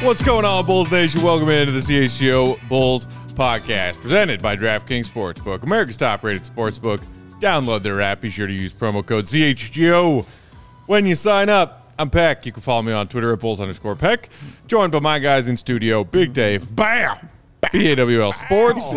What's going on, Bulls Nation? Welcome into the CHGO Bulls podcast, presented by DraftKings Sportsbook, America's top-rated sportsbook. Download their app. Be sure to use promo code CHGO when you sign up. I'm Peck. You can follow me on Twitter at Bulls_Peck. Joined by my guys in studio, Big Dave, BAM! BAWL Sports.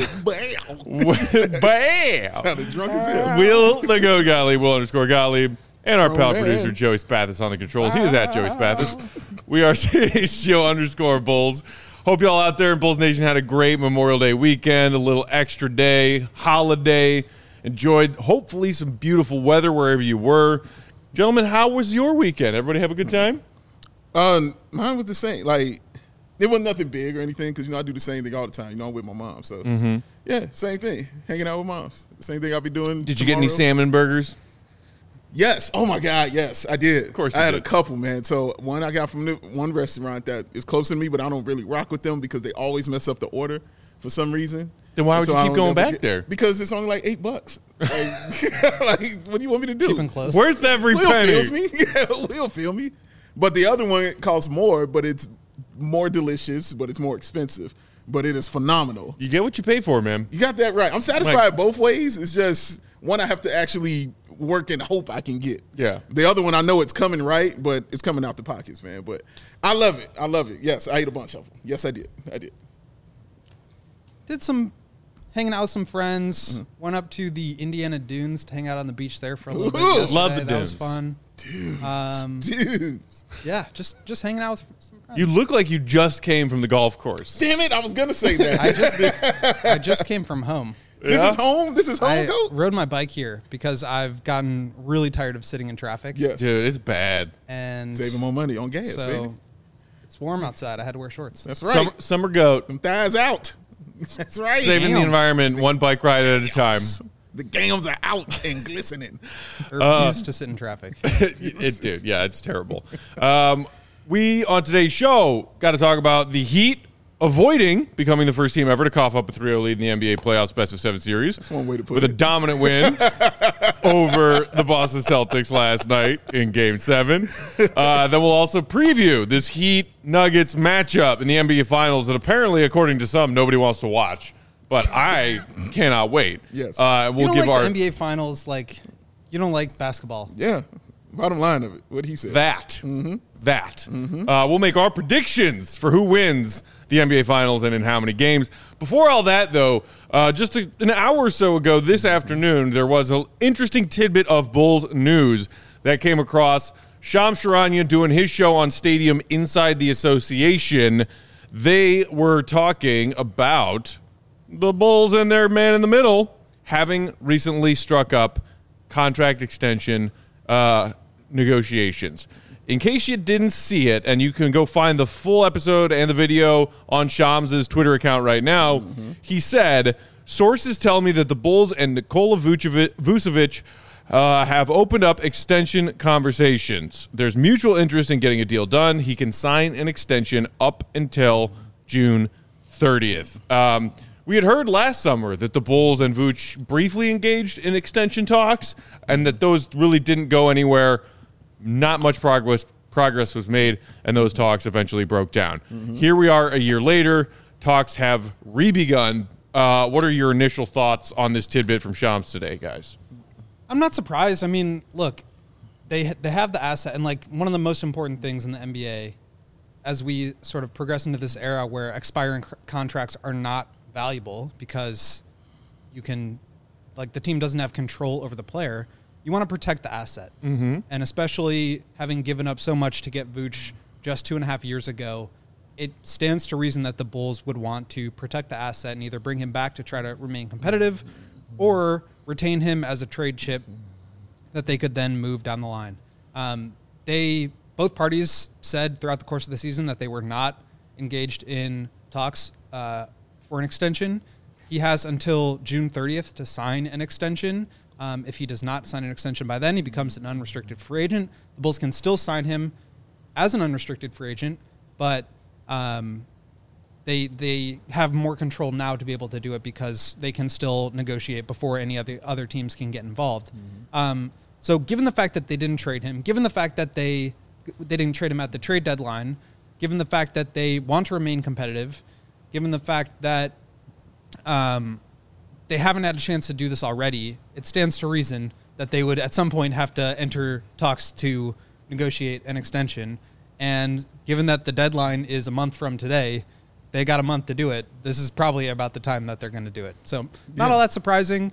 BAM! Sounded drunk as hell. Will the Goat Gottlieb, Will_Gottlieb. And our pal producer, Joey Spathis, on the controls. He is at Joey Spathis. We are CHGO_Bulls. Hope y'all out there in Bulls Nation had a great Memorial Day weekend, a little extra day, holiday. Enjoyed, hopefully, some beautiful weather wherever you were. Gentlemen, how was your weekend? Everybody have a good time? Mine was the same. Like, it wasn't nothing big or anything because, I do the same thing all the time. I'm with my mom. So, yeah, same thing. Hanging out with moms. The same thing I'll be doing Did you get any salmon burgers? Yes. Oh, my God, yes, I did. Of course I had did. A couple, man. So, one I got from one restaurant that is close to me, but I don't really rock with them because they always mess up the order for some reason. Then why would you keep going back there? Because it's only like $8. Like, what do you want me to do? Keeping close. Worth every Will penny. feels me. Yeah, Will feel me. But the other one costs more, but it's more delicious, but it's more expensive. But it is phenomenal. You get what you pay for, man. You got that right. I'm satisfied both ways. It's just one I have to actually work and hope I can get. Yeah. The other one, I know it's coming right, but it's coming out the pockets, man. But I love it. I love it. Yes, I ate a bunch of them. Yes, I did. Did some hanging out with some friends. Went up to the Indiana Dunes to hang out on the beach there for a little bit. Ooh, Yesterday. love the That was dunes. fun. Dudes. Yeah, just hanging out with some friends. You look like you just came from the golf course. Damn it, I was going to say that. I just came from home. This is home? This is home, I Goat? rode my bike here because I've gotten really tired of sitting in traffic. Yes. Dude, it's bad. And Saving more money on gas, so baby. it's warm outside. I had to wear shorts. That's right. Summer goat. Them thighs out. That's right. Saving the Gams. environment one bike ride at a time. The gams are out and glistening. I refuse to sit in traffic. Dude, yeah, it's terrible. We, on today's show, got to talk about the Heat avoiding becoming the first team ever to cough up a 3-0 lead in the NBA playoffs best of 7 series. That's one way to put with it. a dominant win over the Boston Celtics last night in Game 7. Then we'll also preview this Heat-Nuggets matchup in the NBA Finals that apparently, according to some, nobody wants to watch. But I cannot wait. Yes. You We'll don't give like our the NBA Finals, like you don't like basketball. Yeah. Bottom line of it. What he said. that. We'll make our predictions for who wins the NBA Finals and in how many games. Before all that, though, just an hour or so ago this afternoon, there was an interesting tidbit of Bulls news that came across. Shams Charania doing his show on Stadium Inside the Association. They were talking about the Bulls and their man in the middle having recently struck up contract extension negotiations. In case you didn't see it, and you can go find the full episode and the video on Shams' Twitter account right now, he said, sources tell me that the Bulls and Nikola Vucevic have opened up extension conversations. There's mutual interest in getting a deal done. He can sign an extension up until June 30th. We had heard last summer that the Bulls and Vooch briefly engaged in extension talks and that those really didn't go anywhere. Not much progress was made, and those talks eventually broke down. Here we are a year later. Talks have re-begun. What are your initial thoughts on this tidbit from Shams today, guys? I'm not surprised. I mean, look, they have the asset, and like one of the most important things in the NBA, as we sort of progress into this era where expiring contracts are not valuable because you can, like, the team doesn't have control over the player. You want to protect the asset. And especially having given up so much to get Vooch just 2.5 years ago, it stands to reason that the Bulls would want to protect the asset and either bring him back to try to remain competitive or retain him as a trade chip that they could then move down the line. Both parties said throughout the course of the season that they were not engaged in talks for an extension. He has until June 30th to sign an extension. If he does not sign an extension by then, he becomes an unrestricted free agent. The Bulls can still sign him as an unrestricted free agent, but they have more control now to be able to do it because they can still negotiate before any of the other teams can get involved. So given the fact that they didn't trade him, given the fact that they didn't trade him at the trade deadline, given the fact that they want to remain competitive, given the fact that they haven't had a chance to do this already, it stands to reason that they would at some point have to enter talks to negotiate an extension. And given that the deadline is a month from today, they got a month to do it. This is probably about the time that they're going to do it. So not all that surprising.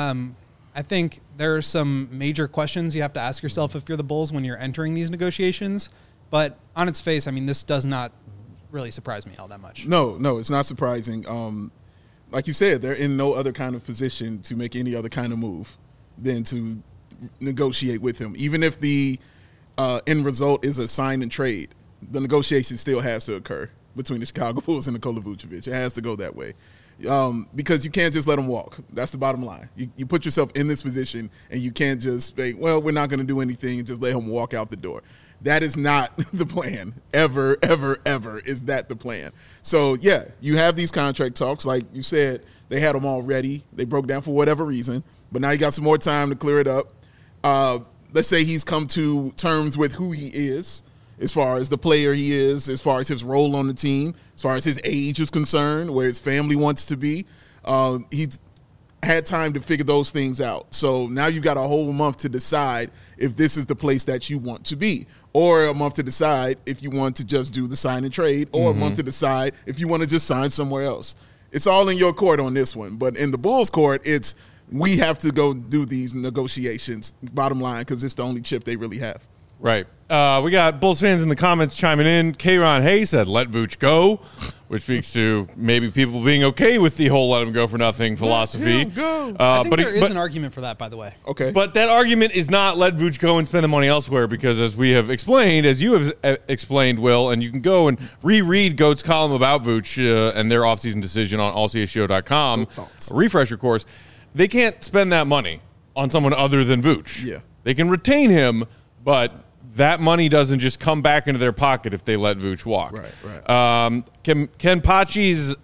I think there are some major questions you have to ask yourself if you're the Bulls when you're entering these negotiations. But on its face, I mean, this does not really surprise me all that much. No, it's not surprising. Like you said, they're in no other kind of position to make any other kind of move than to negotiate with him. Even if the end result is a sign and trade, the negotiation still has to occur between the Chicago Bulls and Nikola Vucevic. It has to go that way. Because you can't just let him walk. That's the bottom line. You put yourself in this position, and you can't just say, well, we're not going to do anything and just let him walk out the door. That is not the plan. Ever, ever, ever is that the plan. So, yeah, you have these contract talks. Like you said, they had them all ready. They broke down for whatever reason. But now you got some more time to clear it up. Let's say he's come to terms with who he is, as far as the player he is, as far as his role on the team, as far as his age is concerned, where his family wants to be. He's had time to figure those things out. So now you've got a whole month to decide if this is the place that you want to be, or a month to decide if you want to just do the sign and trade, or a month to decide if you want to just sign somewhere else. It's all in your court on this one. But in the Bulls' court, it's we have to go do these negotiations, bottom line, because it's the only chip they really have. Right. We got Bulls fans in the comments chiming in. K'Ron Hay said, let Vooch go, which speaks to maybe people being okay with the whole let him go for nothing philosophy. Go. I think there is an argument for that, by the way. Okay. But that argument is not let Vooch go and spend the money elsewhere, because as we have explained, as you have explained, Will, and you can go and reread Goat's column about Vooch and their offseason decision on allcshow.com, a refresher course, they can't spend that money on someone other than Vooch. Yeah. They can retain him, but that money doesn't just come back into their pocket if they let Vooch walk. Right. Ken Pachi's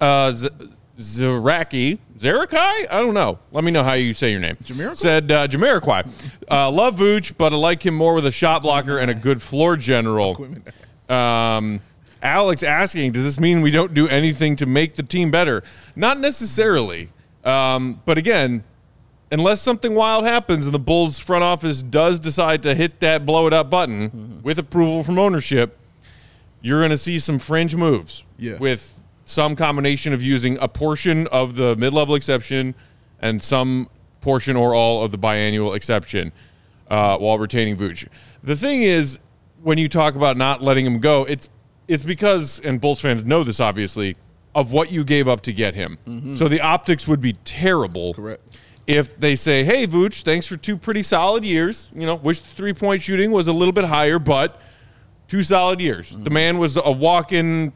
Zarakai? I don't know. Let me know how you say your name. Jamiroquai? Said Jamiroquai. Love Vooch, but I like him more with a shot blocker and a good floor general. Alex asking, does this mean we don't do anything to make the team better? Not necessarily. But again, unless something wild happens and the Bulls front office does decide to hit that blow it up button with approval from ownership, you're going to see some fringe moves with some combination of using a portion of the mid-level exception and some portion or all of the biannual exception while retaining Vooch. The thing is, when you talk about not letting him go, it's because, and Bulls fans know this obviously, of what you gave up to get him. So the optics would be terrible. Correct. If they say, hey, Vooch, thanks for 2 pretty solid years. Wish the three-point shooting was a little bit higher, but 2 solid years. The man was a walk-in,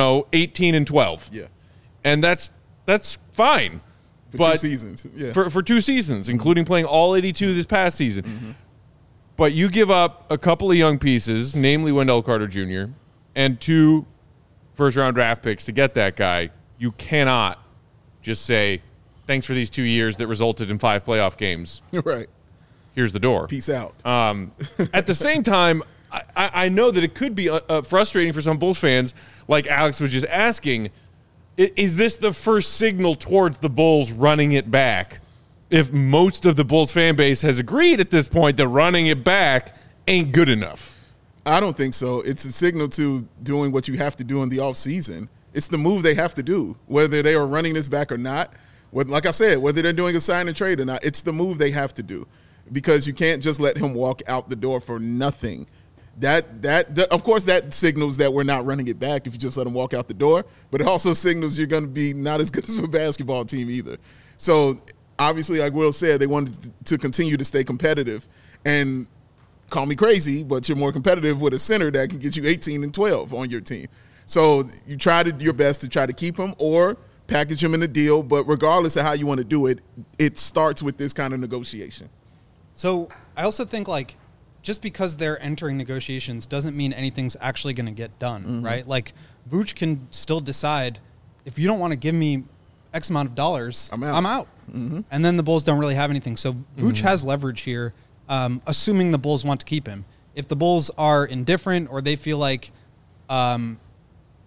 18 and 12. Yeah. And that's fine. For but 2 seasons. Yeah. For 2 seasons, including playing all 82 this past season. But you give up a couple of young pieces, namely Wendell Carter Jr., and 2 first-round draft picks to get that guy. You cannot just say, thanks for these 2 years that resulted in 5 playoff games. Right. Here's the door. Peace out. At the same time, I know that it could be frustrating for some Bulls fans, like Alex was just asking, is this the first signal towards the Bulls running it back? If most of the Bulls fan base has agreed at this point that running it back ain't good enough. I don't think so. It's a signal to doing what you have to do in the offseason. It's the move they have to do, whether they are running this back or not. Like I said, whether they're doing a sign and trade or not, it's the move they have to do, because you can't just let him walk out the door for nothing. That of course, that signals that we're not running it back if you just let him walk out the door, but it also signals you're going to be not as good as a basketball team either. So obviously, like Will said, they wanted to continue to stay competitive, and call me crazy, but you're more competitive with a center that can get you 18 and 12 on your team. So you tried your best to try to keep him or package him in a deal, but regardless of how you want to do it, it starts with this kind of negotiation. So I also think, like, just because they're entering negotiations doesn't mean anything's actually going to get done, right? Like, Vooch can still decide, if you don't want to give me X amount of dollars, I'm out. And then the Bulls don't really have anything. So Vooch has leverage here, assuming the Bulls want to keep him. If the Bulls are indifferent or they feel like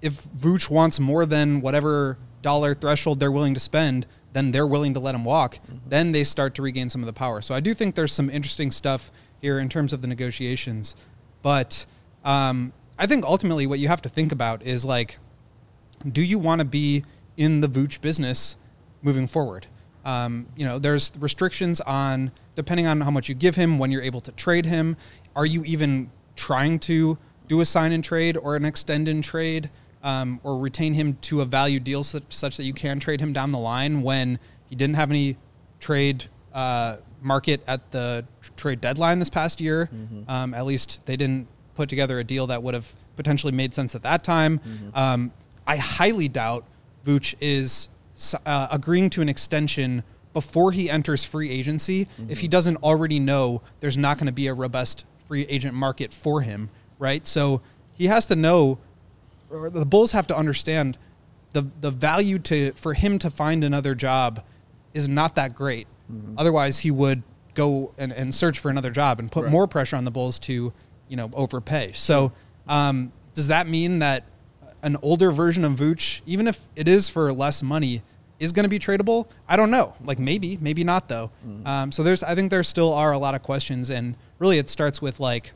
if Vooch wants more than whatever dollar threshold they're willing to spend, then they're willing to let him walk. Then they start to regain some of the power. So I do think there's some interesting stuff here in terms of the negotiations. But I think ultimately what you have to think about is, like, do you want to be in the Vooch business moving forward? There's restrictions on, depending on how much you give him, when you're able to trade him. Are you even trying to do a sign and trade or an extend and trade, or retain him to a value deal such that you can trade him down the line when he didn't have any trade market at the trade deadline this past year? At least they didn't put together a deal that would have potentially made sense at that time. I highly doubt Vooch is agreeing to an extension before he enters free agency if he doesn't already know there's not going to be a robust free agent market for him, right? So he has to know, or the Bulls have to understand, the value for him to find another job is not that great. Otherwise, he would go and search for another job and put more pressure on the Bulls to, overpay. So does that mean that an older version of Vooch, even if it is for less money, is going to be tradable? I don't know. Like, maybe not though. So I think there still are a lot of questions, and really it starts with, like,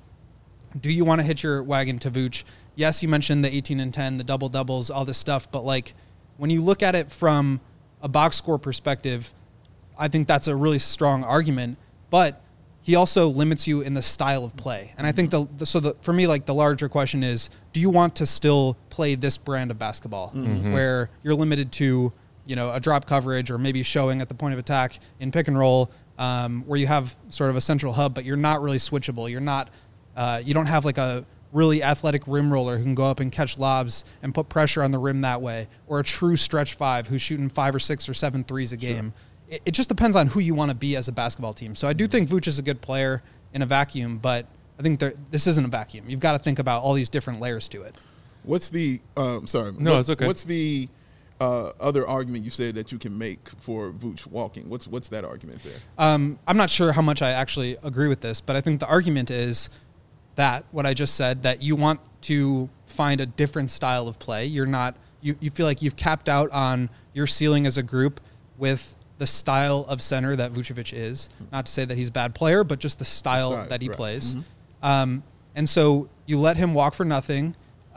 do you want to hitch your wagon to Vooch? Yes, you mentioned the 18 and 10, the double doubles, all this stuff, but, like, when you look at it from a box score perspective, I think that's a really strong argument, but he also limits you in the style of play. And I think for me, like, the larger question is, do you want to still play this brand of basketball where you're limited to, a drop coverage, or maybe showing at the point of attack in pick and roll, where you have sort of a central hub, but you're not really switchable. You're not, you don't have, like, a really athletic rim roller who can go up and catch lobs and put pressure on the rim that way, or a true stretch five who's shooting 5 or 6 or 7 threes a game. It just depends on who you want to be as a basketball team. So I do think Vooch is a good player in a vacuum, but I think this isn't a vacuum. You've got to think about all these different layers to it. What's the it's okay. What's the other argument you said that you can make for Vooch walking? What's that argument there? I'm not sure how much I actually agree with this, but I think the argument is that what I just said, that you want to find a different style of play. You're not, you feel like you've capped out on your ceiling as a group with the style of center that Vucevic is. Not to say that he's a bad player, but just the style that he plays. And so you let him walk for nothing,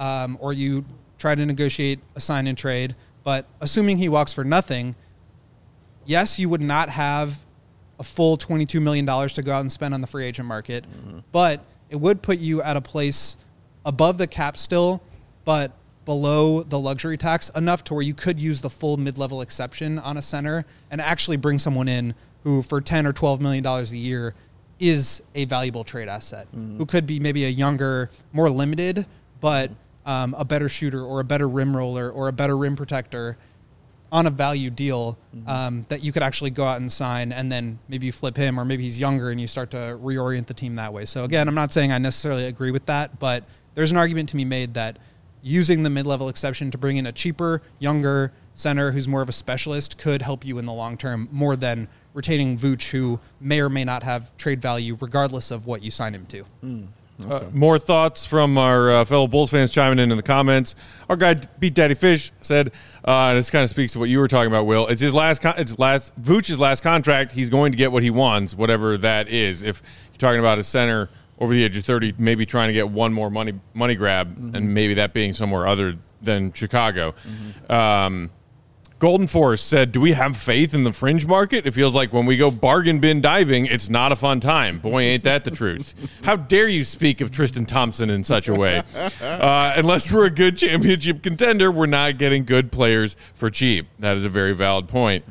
or you try to negotiate a sign and trade. But assuming he walks for nothing, yes, you would not have a full $22 million to go out and spend on the free agent market, but it would put you at a place above the cap still, but below the luxury tax enough to where you could use the full mid-level exception on a center and actually bring someone in who, for $10 or $12 million a year, is a valuable trade asset, who could be maybe a younger, more limited, but a better shooter or a better rim roller or a better rim protector on a value deal that you could actually go out and sign, and then maybe you flip him, or maybe he's younger and you start to reorient the team that way. So again, I'm not saying I necessarily agree with that, but there's an argument to be made that using the mid-level exception to bring in a cheaper, younger center who's more of a specialist could help you in the long term more than retaining Vooch, who may or may not have trade value regardless of what you sign him to. Okay. More thoughts from our fellow Bulls fans chiming in the comments. Our guy Beat Daddy Fish said, and this kind of speaks to what you were talking about, Will. It's Vooch's last contract. He's going to get what he wants, whatever that is. If you're talking about a center over the age of 30, maybe trying to get one more money grab, and maybe that being somewhere other than Chicago. Golden Force said, do we have faith in the fringe market? It feels like when we go bargain bin diving, it's not a fun time. Boy, ain't that the truth. How dare you speak of Tristan Thompson in such a way? Unless we're a good championship contender, we're not getting good players for cheap. That is a very valid point.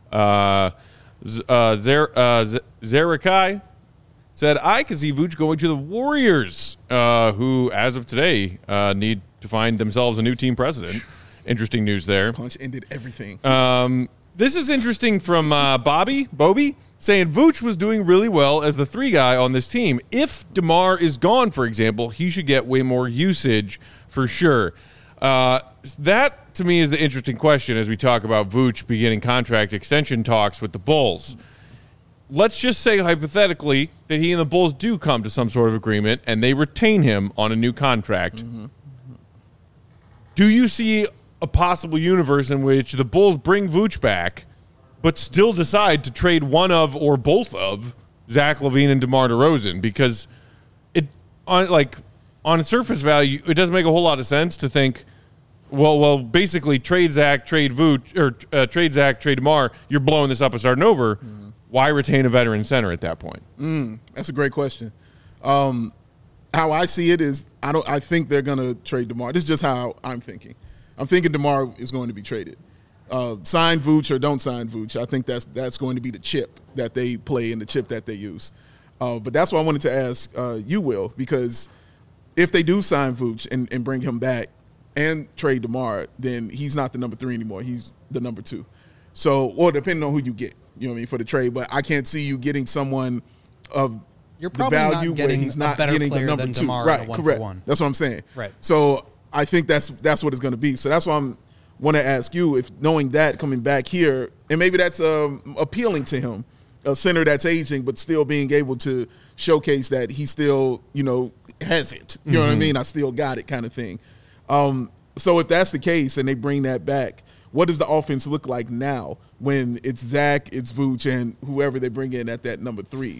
Zerakai said, I can see Vooch going to the Warriors, who, as of today, need to find themselves a new team president. Interesting news there. Punch ended everything. This is interesting from Bobby, saying Vooch was doing really well as the 3 guy on this team. If DeMar is gone, for example, he should get way more usage for sure. That, to me, is the interesting question as we talk about Vooch beginning contract extension talks with the Bulls. Let's just say hypothetically that he and the Bulls do come to some sort of agreement and they retain him on a new contract. do you see a possible universe in which the Bulls bring Vooch back, but still decide to trade one of or both of Zach LaVine and DeMar DeRozan? Because on surface value, it doesn't make a whole lot of sense to think, well, basically trade Zach, trade Vooch, or trade Zach, trade DeMar. You're blowing this up and starting over. Mm-hmm. Why retain a veteran center at that point? That's a great question. How I see it is, I think they're going to trade DeMar. This is just how I'm thinking. I'm thinking DeMar is going to be traded. Sign Vooch or don't sign Vooch. I think that's going to be the chip that they play and the chip that they use. But that's why I wanted to ask you, Will, because if they do sign Vooch and bring him back and trade DeMar, then he's not the number 3 anymore. He's the number 2. So, or depending on who you get, you know what I mean, for the trade. But I can't see you getting someone of You're probably the value not getting where he's not a better getting player the number than 2. DeMar Right, in a 1 correct. for 1. That's what I'm saying. Right. So I think that's what it's going to be. So that's why I'm want to ask you, if knowing that coming back here, and maybe that's appealing to him, a center that's aging but still being able to showcase that he still, has it. You know what I mean? I still got it kind of thing. So if that's the case and they bring that back, what does the offense look like now when it's Zach, it's Vooch, and whoever they bring in at that number 3?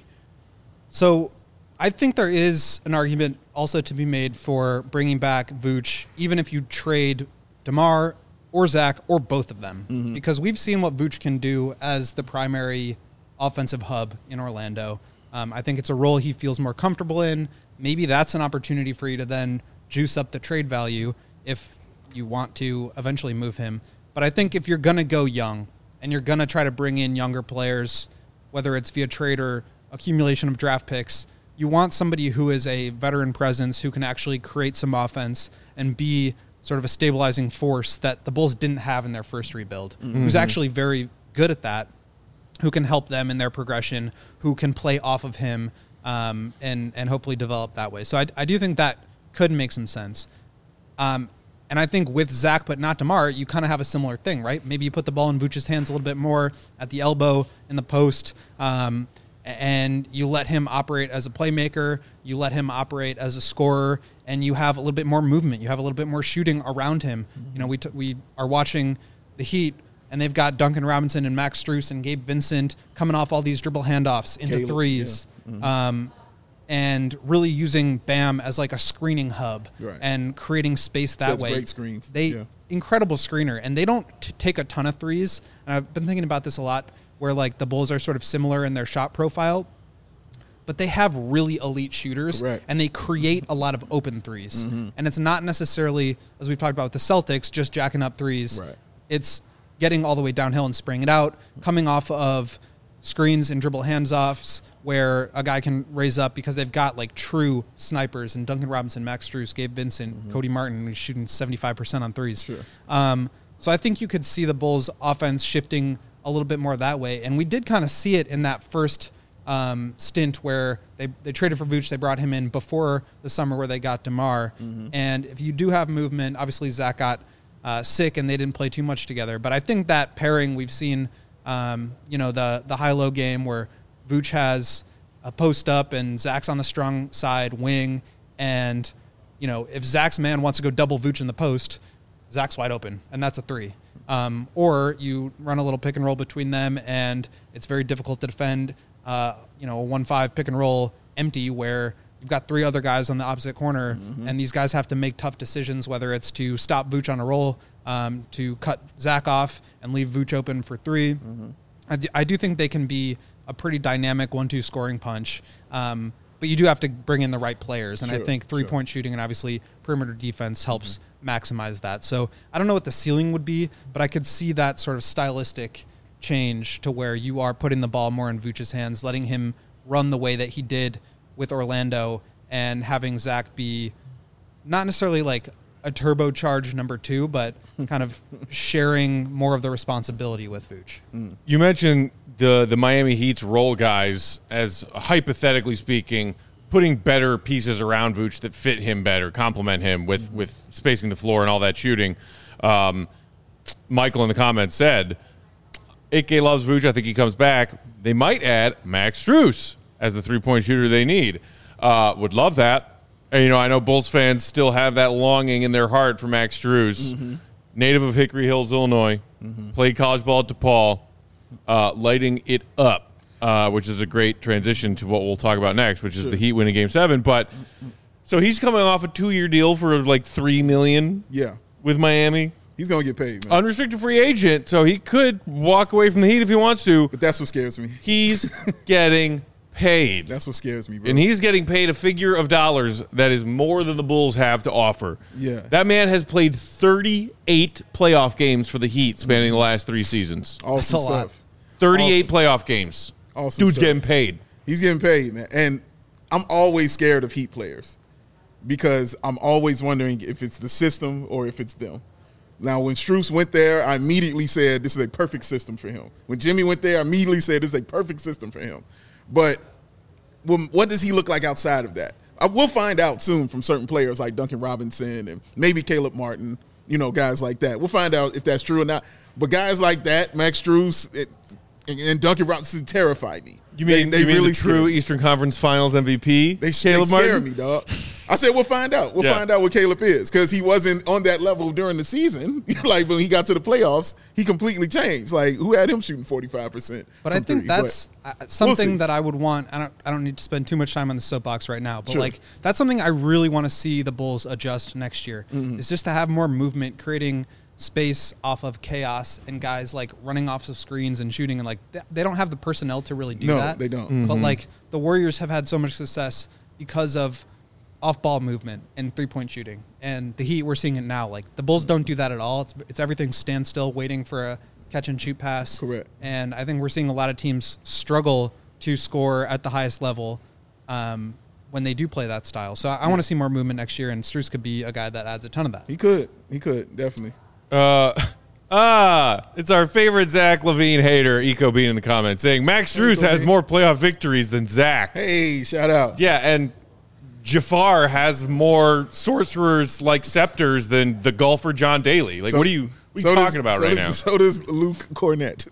So I think there is an argument also to be made for bringing back Vooch, even if you trade DeMar or Zach or both of them, because we've seen what Vooch can do as the primary offensive hub in Orlando. I think it's a role he feels more comfortable in. Maybe that's an opportunity for you to then juice up the trade value if you want to eventually move him. But I think if you're going to go young and you're going to try to bring in younger players, whether it's via trade or accumulation of draft picks, you want somebody who is a veteran presence who can actually create some offense and be sort of a stabilizing force that the Bulls didn't have in their first rebuild, who's actually very good at that, who can help them in their progression, who can play off of him and hopefully develop that way. So I do think that could make some sense. And I think with Zach, but not DeMar, you kind of have a similar thing, right? Maybe you put the ball in Vooch's hands a little bit more at the elbow, in the post, and you let him operate as a playmaker, you let him operate as a scorer, and you have a little bit more movement. You have a little bit more shooting around him. We are watching the Heat, and they've got Duncan Robinson and Max Strus and Gabe Vincent coming off all these dribble handoffs into threes. Yeah. And really using Bam as like a screening hub and creating space that way. Great screens. Incredible screener, and they don't take a ton of threes. And I've been thinking about this a lot, where like the Bulls are sort of similar in their shot profile, but they have really elite shooters, and they create a lot of open threes. And it's not necessarily, as we've talked about with the Celtics, just jacking up threes. It's getting all the way downhill and spraying it out, coming off of screens and dribble hands-offs where a guy can raise up because they've got like true snipers and Duncan Robinson, Max Strus, Gabe Vincent, Cody Martin, who's shooting 75% on threes. So I think you could see the Bulls offense shifting a little bit more that way. And we did kind of see it in that first stint where they traded for Vooch. They brought him in before the summer where they got DeMar. And if you do have movement, obviously Zach got sick and they didn't play too much together. But I think that pairing we've seen, the high-low game where Vooch has a post up and Zach's on the strong side wing. And, if Zach's man wants to go double Vooch in the post, Zach's wide open, and that's a 3. Or you run a little pick and roll between them, and it's very difficult to defend, a 1-5 pick and roll empty where you've got 3 other guys on the opposite corner, and these guys have to make tough decisions, whether it's to stop Vooch on a roll, to cut Zach off and leave Vooch open for 3. I do think they can be a pretty dynamic 1-2 scoring punch, but you do have to bring in the right players, and I think three-point shooting and obviously perimeter defense helps maximize that. So I don't know what the ceiling would be, but I could see that sort of stylistic change to where you are putting the ball more in Vooch's hands, letting him run the way that he did with Orlando, and having Zach be not necessarily like a turbocharged number 2, but kind of sharing more of the responsibility with Vooch. You mentioned the Miami Heat's role guys as, hypothetically speaking, putting better pieces around Vooch that fit him better, complement him with spacing the floor and all that shooting. Michael in the comments said, 8K loves Vooch. I think he comes back. They might add Max Strus as the three-point shooter they need. Would love that. And, I know Bulls fans still have that longing in their heart for Max Strus, native of Hickory Hills, Illinois, played college ball at DePaul, lighting it up, which is a great transition to what we'll talk about next, which is the Heat winning Game 7. But so he's coming off a 2-year deal for like $3 million with Miami. He's going to get paid, man. Unrestricted free agent, so he could walk away from the Heat if he wants to. But that's what scares me. He's getting paid. That's what scares me, bro. And he's getting paid a figure of dollars that is more than the Bulls have to offer. Yeah. That man has played 38 playoff games for the Heat spanning the last 3 seasons. Awesome That's a lot. stuff. 38 playoff games. Awesome Dude's stuff. getting paid. He's getting paid, man. And I'm always scared of Heat players because I'm always wondering if it's the system or if it's them. Now, when Strus went there, I immediately said this is a perfect system for him. When Jimmy went there, I immediately said this is a perfect system for him. But what does he look like outside of that? We'll find out soon from certain players like Duncan Robinson and maybe Caleb Martin, guys like that. We'll find out if that's true or not. But guys like that, Max Strus and Duncan Robinson terrify me. You mean they really the true Eastern Conference Finals MVP? They Caleb scare Martin? me, dog. I said we'll find out. We'll find out what Caleb is because he wasn't on that level during the season. Like when he got to the playoffs, he completely changed. Like who had him shooting 45%? But I think that's something that I would want. I don't need to spend too much time on the soapbox right now. But like that's something I really want to see the Bulls adjust next year. Is just to have more movement, creating space off of chaos and guys like running off of screens and shooting, and like they don't have the personnel to really do that. No, they don't. But like the Warriors have had so much success because of off-ball movement and three-point shooting, and the Heat, we're seeing it now. Like the Bulls don't do that at all. It's everything standstill, waiting for a catch-and-shoot pass. Correct. And I think we're seeing a lot of teams struggle to score at the highest level when they do play that style. So I want to see more movement next year, and Strus could be a guy that adds a ton of that. He could definitely. It's our favorite Zach LaVine hater, Eco Bean, in the comments saying Max Strus has more playoff victories than Zach. Hey, shout out. Yeah, and Jafar has more sorcerers like scepters than the golfer John Daly. Like, what are you talking about right now? So does Luke Cornett.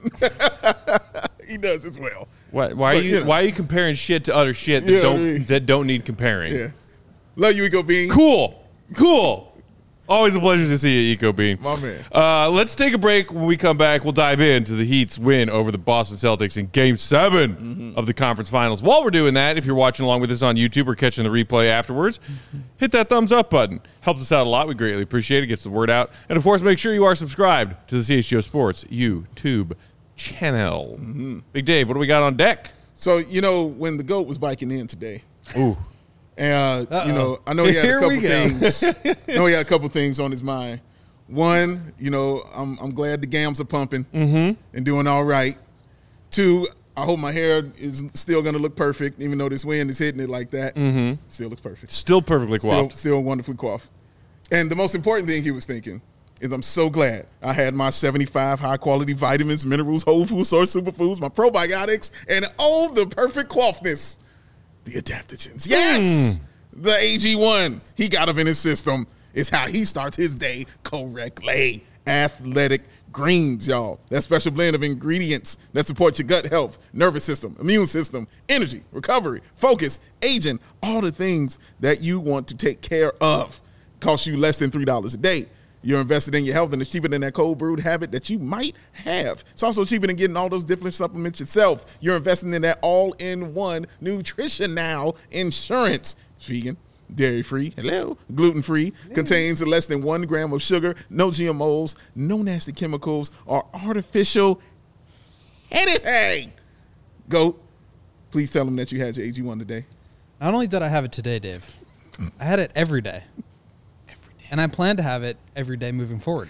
He does as well. Why are you comparing shit to other shit that don't need comparing? Yeah. Love you, Eco Bean. Cool. Always a pleasure to see you, Eco Bean. My man. Let's take a break. When we come back, we'll dive into the Heat's win over the Boston Celtics in Game 7 of the conference finals. While we're doing that, if you're watching along with us on YouTube or catching the replay afterwards, hit that thumbs up button. Helps us out a lot. We greatly appreciate it. Gets the word out. And, of course, make sure you are subscribed to the CHGO Sports YouTube channel. Big Dave, what do we got on deck? So, when the GOAT was biking in today. Ooh. And, I know he had a couple things. I know he had a couple things on his mind. One, I'm glad the gams are pumping and doing all right. Two, I hope my hair is still going to look perfect, even though this wind is hitting it like that. Still looks perfect. Still perfectly coiffed. Still wonderfully coiffed. And the most important thing he was thinking is I'm so glad I had my 75 high-quality vitamins, minerals, whole food source superfoods, my probiotics, and the perfect coiffness. The adaptogens. Yes! The AG1 he got up in his system is how he starts his day correctly. Athletic Greens, y'all. That special blend of ingredients that support your gut health, nervous system, immune system, energy, recovery, focus, aging, all the things that you want to take care of. Costs you less than $3 a day. You're invested in your health, and it's cheaper than that cold brewed habit that you might have. It's also cheaper than getting all those different supplements yourself. You're investing in that all-in-one Nutrition Now insurance. It's vegan, dairy-free, gluten-free, contains less than 1 gram of sugar, no GMOs, no nasty chemicals, or artificial anything. Go. Please tell them that you had your AG1 today. Not only did I have it today, Dave, I had it every day. And I plan to have it every day moving forward.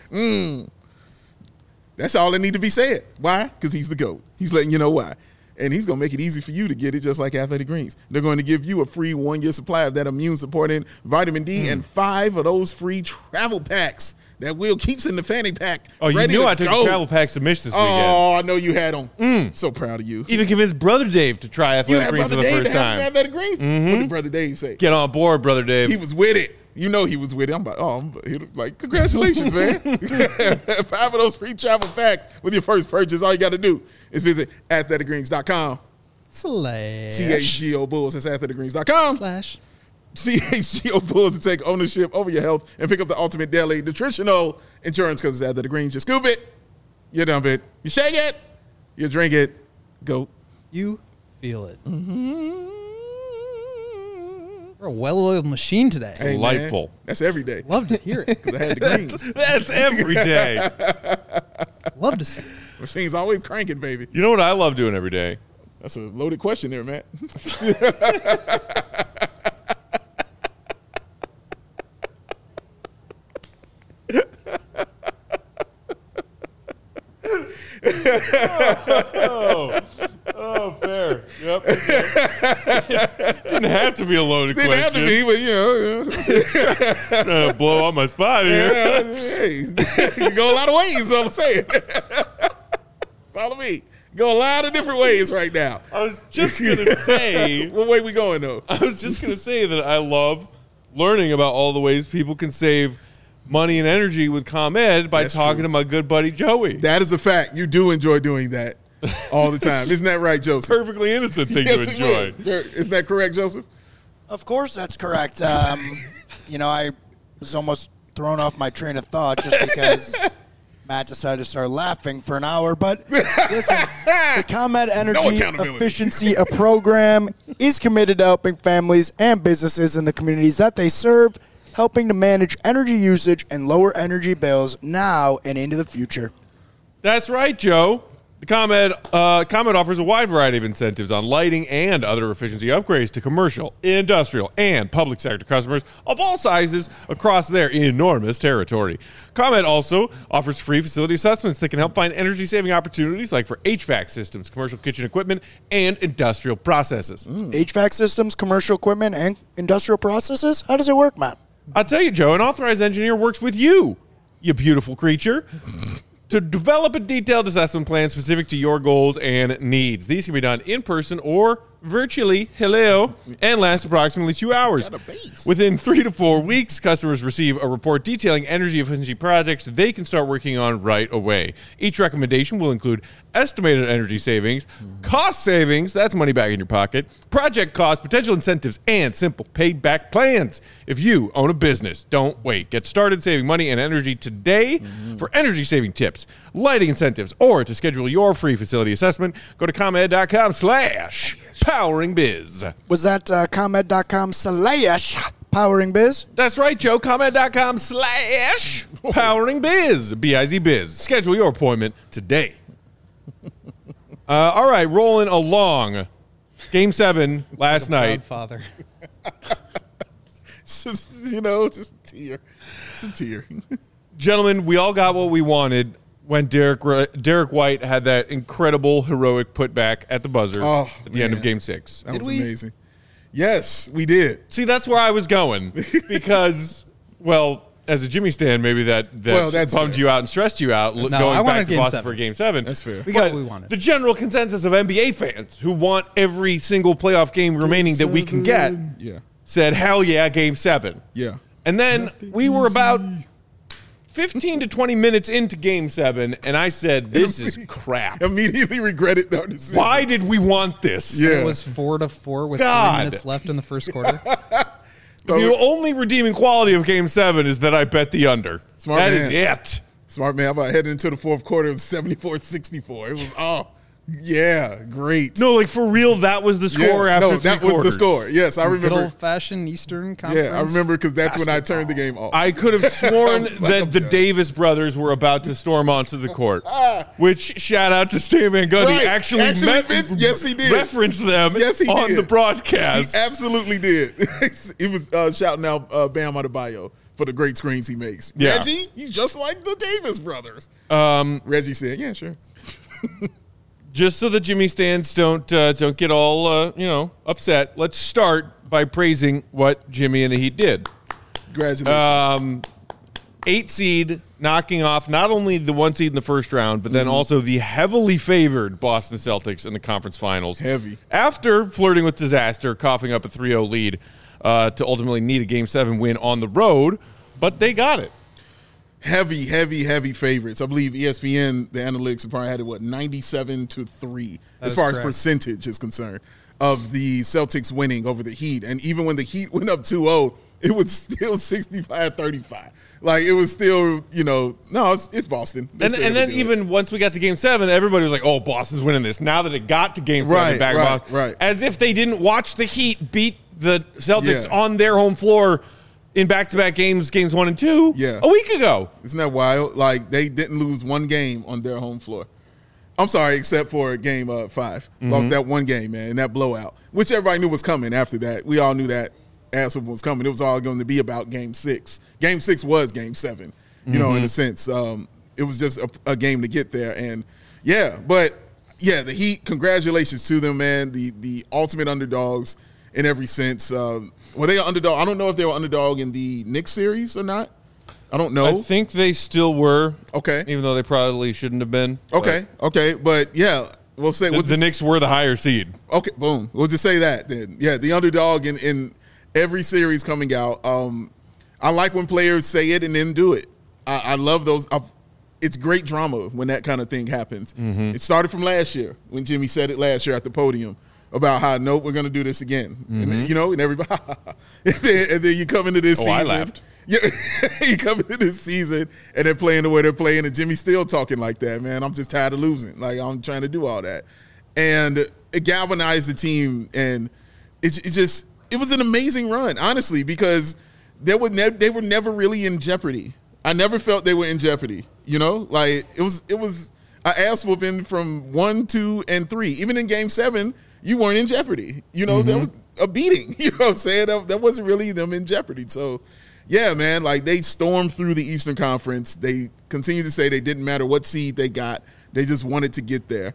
That's all that need to be said. Why? Because he's the GOAT. He's letting you know why. And he's going to make it easy for you to get it just like Athletic Greens. They're going to give you a free 1-year supply of that immune-supporting vitamin D and 5 of those free travel packs that Will keeps in the fanny pack. Oh, you knew I took the travel packs to Mish this weekend. Oh, I know you had them. So proud of you. Even convinced Brother Dave to try Athletic Greens for the first time. Athletic Greens? What did Brother Dave say? Get on board, Brother Dave. He was with it. You know he was with it. I'm like, congratulations, man. 5 of those free travel packs with your first purchase. All you got to do is visit athleticgreens.com. / CHGO Bulls. That's athleticgreens.com. / CHGO Bulls to take ownership over your health and pick up the ultimate daily nutritional insurance because it's after the greens. You scoop it, you dump it, you shake it, you drink it. Go. You feel it. Mm-hmm. We're a well-oiled machine today. Hey, Delightful. man, that's every day. Love to hear it. Because I had the greens. That's every day. Love to see it. Machine's always cranking, baby. You know what I love doing every day? That's a loaded question there, Matt. Oh, fair. Yep. Didn't have to be a loaded Didn't have question. to be, but Trying to blow on my spot here. hey, you can go a lot of ways, is all I'm saying. Follow me. Go a lot of different ways right now. I was just going to say. What way we going, though? I was just going to say that I love learning about all the ways people can save money and energy with ComEd by That's talking true. to my good buddy Joey. That is a fact. You do enjoy doing that all the time. Isn't that right, Joseph? Perfectly innocent thing Yes, to it enjoy. is. Isn't that correct, Joseph? Of course, that's correct. I was almost thrown off my train of thought just because Matt decided to start laughing for an hour. But listen, the ComEd Energy accountability. Efficiency Program is committed to helping families and businesses in the communities that they serve, helping to manage energy usage and lower energy bills now and into the future. That's right, Joe. The ComEd offers a wide variety of incentives on lighting and other efficiency upgrades to commercial, industrial, and public sector customers of all sizes across their enormous territory. ComEd also offers free facility assessments that can help find energy-saving opportunities like for HVAC systems, commercial kitchen equipment, and industrial processes. HVAC systems, commercial equipment, and industrial processes? How does it work, Matt? I'll tell you, Joe, an authorized engineer works with you beautiful creature, to develop a detailed assessment plan specific to your goals and needs. These can be done in person or virtually, and last approximately 2 hours. Within 3 to 4 weeks, customers receive a report detailing energy efficiency projects they can start working on right away. Each recommendation will include estimated energy savings, cost savings, that's money back in your pocket, project costs, potential incentives, and simple payback plans. If you own a business, don't wait. Get started saving money and energy today. For energy saving tips, lighting incentives, or to schedule your free facility assessment, go to ComEd.com/poweringbiz. Was that ComEd.com/poweringbiz? That's right, Joe. ComEd.com/poweringbiz. B-I-Z-biz. Schedule your appointment today. All right, rolling along. Game 7 last night. Godfather. It's just, just a tear. It's a tear. Gentlemen, we all got what we wanted when Derek White had that incredible heroic putback at the buzzer at the end of Game 6. That was amazing. Yes, we did. See, that's where I was going because, well, as a Jimmy stan, maybe that's bummed fair. you out and stressed you out I going wanted back to Game Boston 7. for Game 7. That's fair. We got what we wanted. The general consensus of NBA fans who want every single playoff game remaining that we can get Yeah. said, hell yeah, Game 7. Yeah. And then we were about 15 to 20 minutes into Game 7, and I said, this is crap. Immediately regretted our decision. Why did we want this? Yeah. It was 4-4 with God. 3 minutes left in the first quarter. The only redeeming quality of Game 7 is that I bet the under. Smart That man. is it. Smart man. How about heading into the fourth quarter? It was 74-64. It was, great. No, like for real, that was the score after no, three that was quarters. the score. Yes, I Good remember. old-fashioned Eastern Conference. Yeah, I remember because that's when I turned the game off. I could have sworn was like, that I'm the done. Davis brothers were about to storm onto the court, which, shout out to Stan Van Gundy, Right. actually Yes, he did. referenced them Yes, he on did. the He broadcast. absolutely did. He was shouting out Bam Adebayo for the great screens he makes. Yeah. Reggie, he's just like the Davis brothers. Reggie said, "Yeah, sure." Just so the Jimmy stands don't get all upset, let's start by praising what Jimmy and the Heat did. Congratulations. 8 seed, knocking off not only the 1 seed in the first round, but then also the heavily favored Boston Celtics in the conference finals. Heavy. After flirting with disaster, coughing up a 3-0 lead to ultimately need a Game 7 win on the road, but they got it. Heavy favorites. I believe ESPN, the analytics probably had it, 97-3 That as is far correct. as percentage is concerned. of the Celtics winning over the Heat. And even when the Heat went up 2-0, it was still 65-35. Like, it was still, no, it's Boston. And then even once we got to Game 7, everybody was like, oh, Boston's winning this. Now that it got to Game 7 back in Boston. Right. As if they didn't watch the Heat beat the Celtics on their home floor in back-to-back games 1 and 2, a week ago. Isn't that wild? Like, they didn't lose one game on their home floor. I'm sorry, except for Game 5. Lost that one game, man, that blowout, which everybody knew was coming after that. We all knew that ass was coming. It was all going to be about Game 6. Game 6 was Game 7, in a sense. It was just a game to get there. And, the Heat, congratulations to them, man. The ultimate underdogs in every sense. Were they an underdog? I don't know if they were underdog in the Knicks series or not. I don't know. I think they still were. Okay. Even though they probably shouldn't have been. Okay. But, we'll say the Knicks were the higher seed. Okay, boom. We'll just say that then. Yeah, the underdog in every series coming out. I like when players say it and then do it. I love those. It's great drama when that kind of thing happens. It started from last year when Jimmy said it last year at the podium about how, no, we're going to do this again. And, and everybody. and then you come into this season. I laughed. Yeah, you come into this season and they're playing the way they're playing, and Jimmy's still talking like that, man. I'm just tired of losing. Like, I'm trying to do all that. And it galvanized the team, and it was an amazing run, honestly, because they were never really in jeopardy. I never felt they were in jeopardy, Like, it was an ass whooping from 1, 2, and 3. Even in Game 7, you weren't in jeopardy. There was a beating, you know what I'm saying? That wasn't really them in jeopardy. So, yeah, man, like, they stormed through the Eastern Conference. They continue to say they didn't matter what seed they got. They just wanted to get there.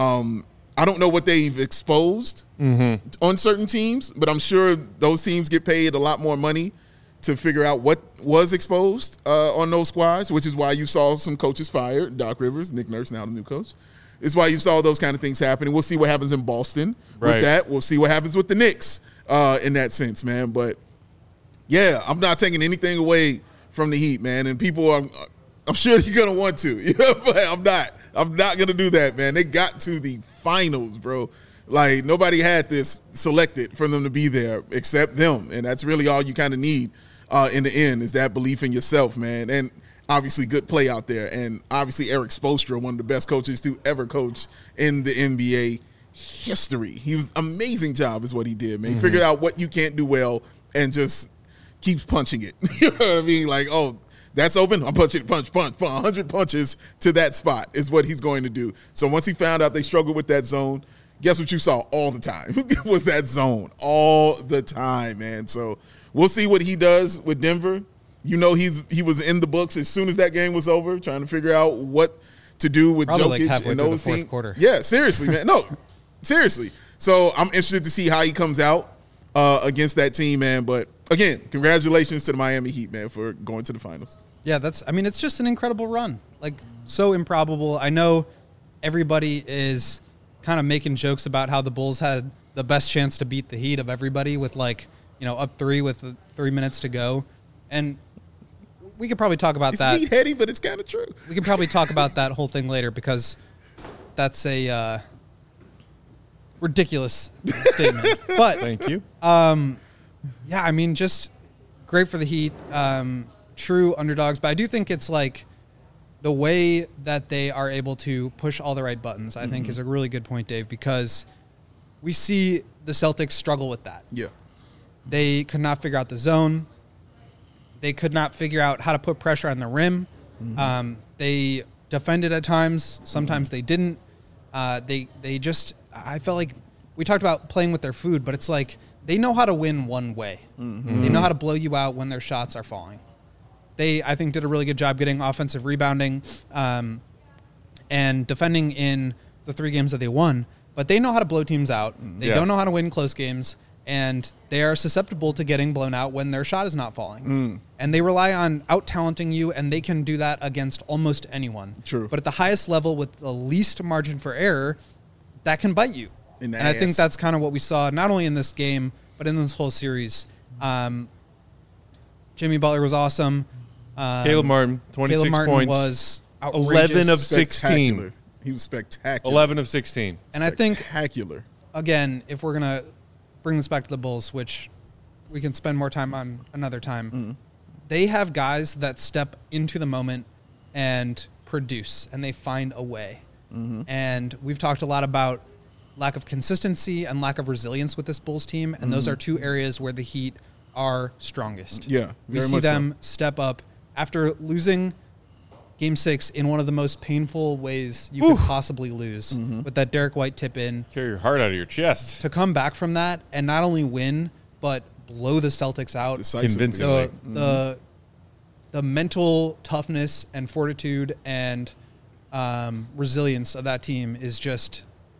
I don't know what they've exposed on certain teams, but I'm sure those teams get paid a lot more money to figure out what was exposed on those squads, which is why you saw some coaches fired. Doc Rivers, Nick Nurse, now the new coach. It's why you saw those kind of things happening. We'll see what happens in Boston with that. We'll see what happens with the Knicks in that sense, man. But, yeah, I'm not taking anything away from the Heat, man. And people I'm sure you're going to want to. But I'm not going to do that, man. They got to the finals, bro. Like, nobody had this selected for them to be there except them. And that's really all you kind of need in the end is that belief in yourself, man. And obviously good play out there. And obviously Eric Spoelstra, one of the best coaches to ever coach in the NBA history. He was amazing job is what he did, man. He figured out what you can't do well and just keeps punching it. You know what I mean? Like, oh, that's open. I'm punching it, punch. 100 punches to that spot is what he's going to do. So once he found out they struggled with that zone, guess what you saw all the time? was that zone all the time, man. So we'll see what he does with Denver. He was in the books as soon as that game was over, trying to figure out what to do with probably Jokic like halfway and through those the fourth teams. quarter. Yeah, seriously, man. No, seriously. So I'm interested to see how he comes out against that team, man. But again, congratulations to the Miami Heat, man, for going to the finals. Yeah, it's just an incredible run. Like, so improbable. I know everybody is kind of making jokes about how the Bulls had the best chance to beat the Heat of everybody with up 3 with 3 minutes to go. And we could probably talk about that. It's heady, but it's kind of true. We could probably talk about that whole thing later because that's a ridiculous statement. But thank you. Just great for the Heat. True underdogs. But I do think it's like the way that they are able to push all the right buttons, I think, is a really good point, Dave, because we see the Celtics struggle with that. Yeah. They could not figure out the zone. They could not figure out how to put pressure on the rim. They defended at times. Sometimes they didn't. I felt like we talked about playing with their food, but it's like they know how to win one way. They know how to blow you out when their shots are falling. They, I think, did a really good job getting offensive rebounding and defending in the 3 games that they won. But they know how to blow teams out. They don't know how to win close games. And they are susceptible to getting blown out when their shot is not falling. And they rely on out-talenting you, and they can do that against almost anyone. True. But at the highest level with the least margin for error, that can bite you. And I think that's kind of what we saw, not only in this game, but in this whole series. Jimmy Butler was awesome. Caleb Martin, 26 points. Was outrageous. 11 of 16. He was spectacular. 11 of 16. And I think spectacular. again, if we're going to bring this back to the Bulls, which we can spend more time on another time, they have guys that step into the moment and produce, and they find a way. And we've talked a lot about lack of consistency and lack of resilience with this Bulls team, and those are two areas where the Heat are strongest. Yeah, we very see much them so. step up after losing Game 6 in one of the most painful ways you could possibly lose with that Derek White tip in. Tear your heart out of your chest. To come back from that and not only win, but blow the Celtics out. Decisively. Convincingly. The mental toughness and fortitude and resilience of that team is just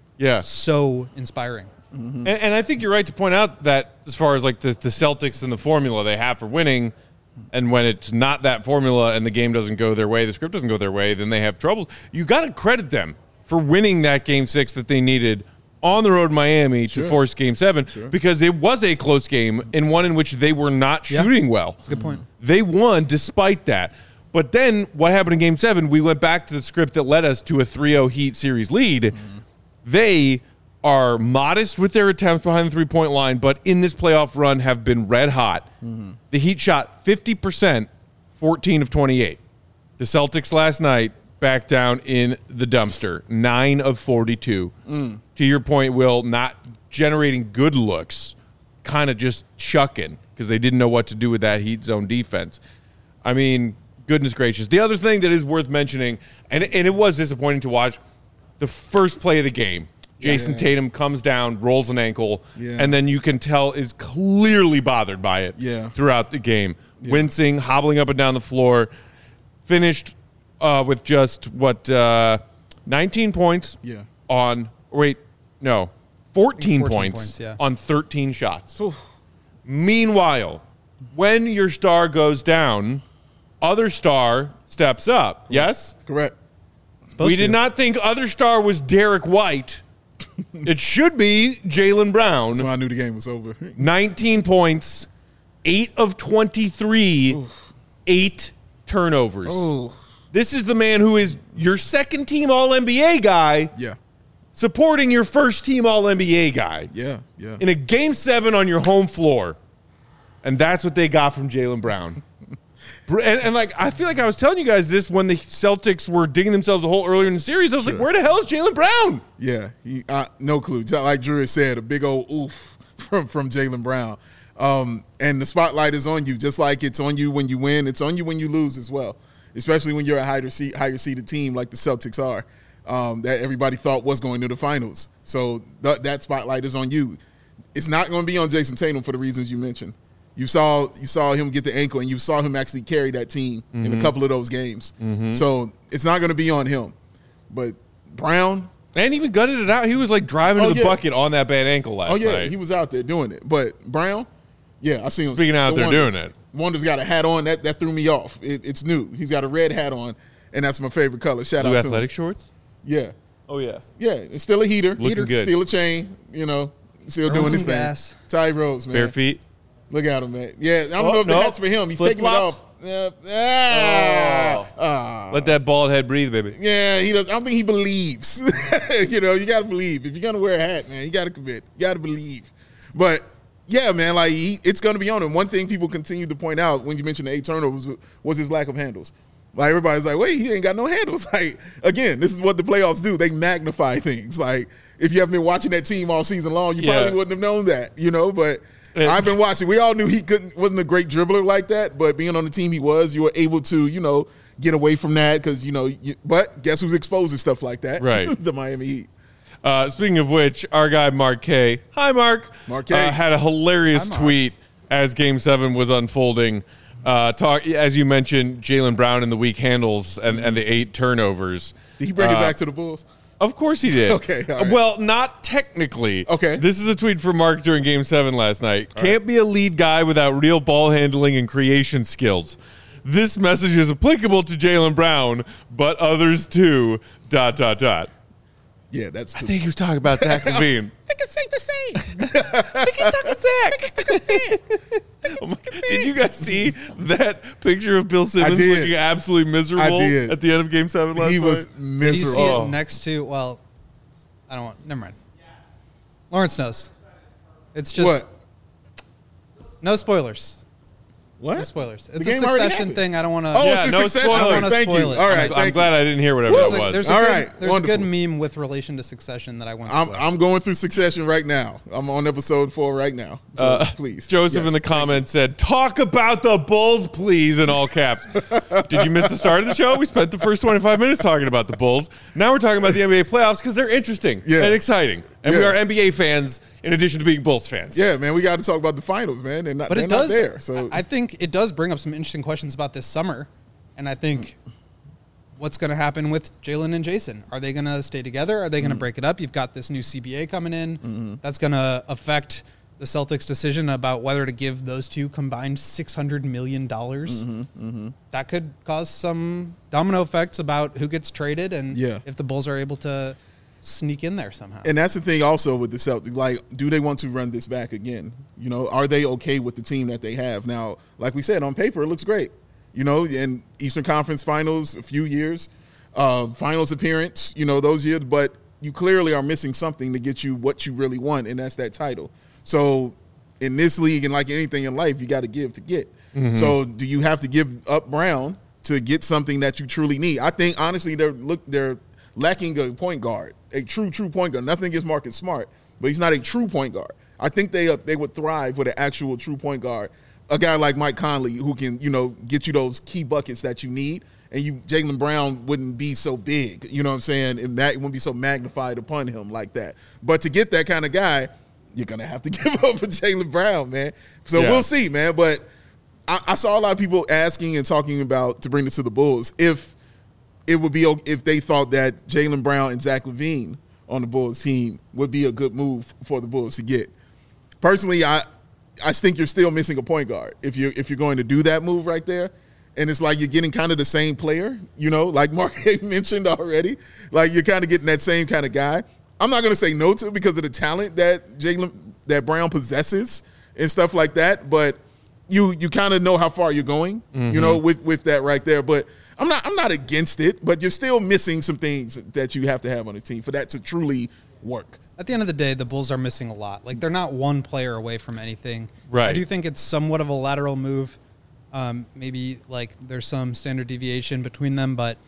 so inspiring. And I think you're right to point out that as far as like the Celtics and the formula they have for winning, and when it's not that formula and the game doesn't go their way, the script doesn't go their way, then they have troubles. You got to credit them for winning that Game 6 that they needed on the road in Miami to force Game 7 because it was a close game and one in which they were not shooting well. That's a good point. They won despite that. But then what happened in Game 7, we went back to the script that led us to a 3-0 Heat series lead. They are modest with their attempts behind the three-point line, but in this playoff run have been red hot. The Heat shot 50%, 14 of 28. The Celtics last night back down in the dumpster, 9 of 42. To your point, Will, not generating good looks, kind of just chucking because they didn't know what to do with that Heat zone defense. I mean, goodness gracious. The other thing that is worth mentioning, and it was disappointing to watch, the first play of the game. Jason Tatum comes down, rolls an ankle, and then you can tell is clearly bothered by it throughout the game. Wincing, hobbling up and down the floor. Finished with just, 19 points on – 14 points on 13 shots. Meanwhile, when your star goes down, other star steps up. Yes? Correct. We did not think other star was Derek White. It should be Jaylen Brown. That's why I knew the game was over. 19 points, 8 of 23, 8 turnovers. This is the man who is your second-team All-NBA guy supporting your first-team All-NBA guy. In a Game 7 on your home floor. And that's what they got from Jaylen Brown. And like, I feel like I was telling you guys this when the Celtics were digging themselves a hole earlier in the series. I was like, where the hell is Jaylen Brown? Yeah, no clue. Like Drew said, a big old oof from Jaylen Brown. And the spotlight is on you, just like it's on you when you win. It's on you when you lose as well, especially when you're a higher seeded team like the Celtics are, that everybody thought was going to the finals. So that spotlight is on you. It's not going to be on Jason Tatum for the reasons you mentioned. You saw him get the ankle, and you saw him actually carry that team in a couple of those games. So it's not going to be on him. But Brown. And even gutted it out. He was like driving to the bucket on that bad ankle last night. He was out there doing it. But Brown, I seen him. Speaking out there doing it. Wonder's got a hat on. That threw me off. It's new. He's got a red hat on, and that's my favorite color. Shout out to him. Athletic shorts? Yeah. Oh, yeah. Yeah, it's still a heater. Looking good. Still a chain, still doing his thing. Gas. Ty Rose, man. Bare feet. Look at him, man. Yeah, I don't know if the hat's for him. He's taking it off. Let that bald head breathe, baby. Yeah, he does. I don't think he believes. You got to believe. If you're going to wear a hat, man, you got to commit. You got to believe. But, yeah, man, like it's going to be on him. One thing people continue to point out when you mentioned the 8 turnovers was his lack of handles. Like, everybody's like, wait, he ain't got no handles. Like, again, this is what the playoffs do. They magnify things. Like, if you haven't been watching that team all season long, you probably wouldn't have known that, but – I've been watching. We all knew he wasn't a great dribbler like that, but being on the team he was, you were able to, get away from that because, but guess who's exposed to stuff like that? Right. The Miami Heat. Speaking of which, our guy Mark K. Hi, Mark. Mark K. Had a hilarious tweet as Game 7 was unfolding. As you mentioned, Jaylen Brown and the weak handles and the 8 turnovers. Did he bring it back to the Bulls? Of course he did. Okay. All right. Well, not technically. Okay. This is a tweet from Mark during Game 7 last night. Can't be a lead guy without real ball handling and creation skills. This message is applicable to Jaylen Brown, but others too, ... Yeah, that's I think he was talking about Zach LaVine. I think it's safe to say. I think he's talking Zach. Did you guys see that picture of Bill Simmons looking absolutely miserable at the end of Game 7 last night? He was miserable. Did you see it next to, I don't want, never mind. Lawrence knows. It's just What? no spoilers. What? No spoilers. The It's a game already Succession happened. thing. I don't want to. Oh, Yeah, it's no a Succession. spoilers. I don't wanna Thank you. spoil it. All right, I'm thank glad you. I didn't hear whatever that was. There's a All good, right, there's a wonderful. good meme with relation to Succession that I want to I'm going through Succession right now. I'm on episode 4 right now. So please, Joseph Yes, in the comments said, "Talk about the Bulls, please," in all caps. Did you miss the start of the show? We spent the first 25 minutes talking about the Bulls. Now we're talking about the NBA playoffs because they're interesting and exciting, and we Yeah. are NBA fans in addition to being Bulls fans. Yeah, man, we got to talk about the finals, man. And But they're it does. not there. So I think it does bring up some interesting questions about this summer, and I think what's going to happen with Jalen and Jason? Are they going to stay together? Are they going to break it up? You've got this new CBA coming in. That's going to affect the Celtics' decision about whether to give those two combined $600 million. That could cause some domino effects about who gets traded and if the Bulls are able to sneak in there somehow. And that's the thing also with the Celtics. Like, do they want to run this back again? You know, are they okay with the team that they have? Now, like we said, on paper, it looks great. You know, in Eastern Conference Finals, a few years, finals appearance, you know, those years. But you clearly are missing something to get you what you really want, and that's that title. So in this league and like anything in life, you got to give to get. So do you have to give up Brown to get something that you truly need? I think, honestly, they're lacking a point guard, a true point guard. Nothing against Marcus Smart, but he's not a true point guard. I think they would thrive with an actual true point guard, a guy like Mike Conley who can, you know, get you those key buckets that you need, and Jaylen Brown wouldn't be so big, you know what I'm saying, and that wouldn't be so magnified upon him like that. But to get that kind of guy, you're gonna have to give up for Jaylen Brown, man. So we'll see, man. But I saw a lot of people asking and talking about, to bring this to the Bulls, if it would be if they thought that Jaylen Brown and Zach LaVine on the Bulls team would be a good move for the Bulls to get. Personally, I think you're still missing a point guard if you're going to do that move right there. And it's like you're getting kind of the same player, you know, like Mark mentioned already. Like you're kind of getting that same kind of guy. I'm not going to say no to it because of the talent that Brown possesses and stuff like that. But you kind of know how far you're going, you know, with that right there. But I'm not against it, but you're still missing some things that you have to have on the team for that to truly work. At the end of the day, the Bulls are missing a lot. Like, they're not one player away from anything. Right. I do think it's somewhat of a lateral move. Maybe, like, there's some standard deviation between them, but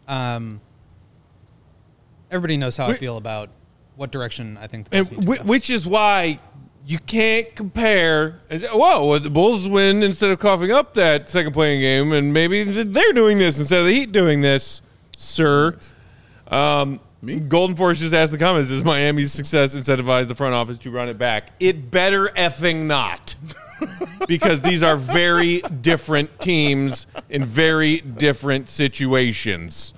everybody knows how I feel about what direction I think the Bulls need to go. Which is why you can't compare. Whoa, the Bulls win instead of coughing up that second playing game, and maybe they're doing this instead of the Heat doing this, sir. Golden Force just asked the comments, does Miami's success incentivize the front office to run it back? It better effing not. Because these are very different teams in very different situations.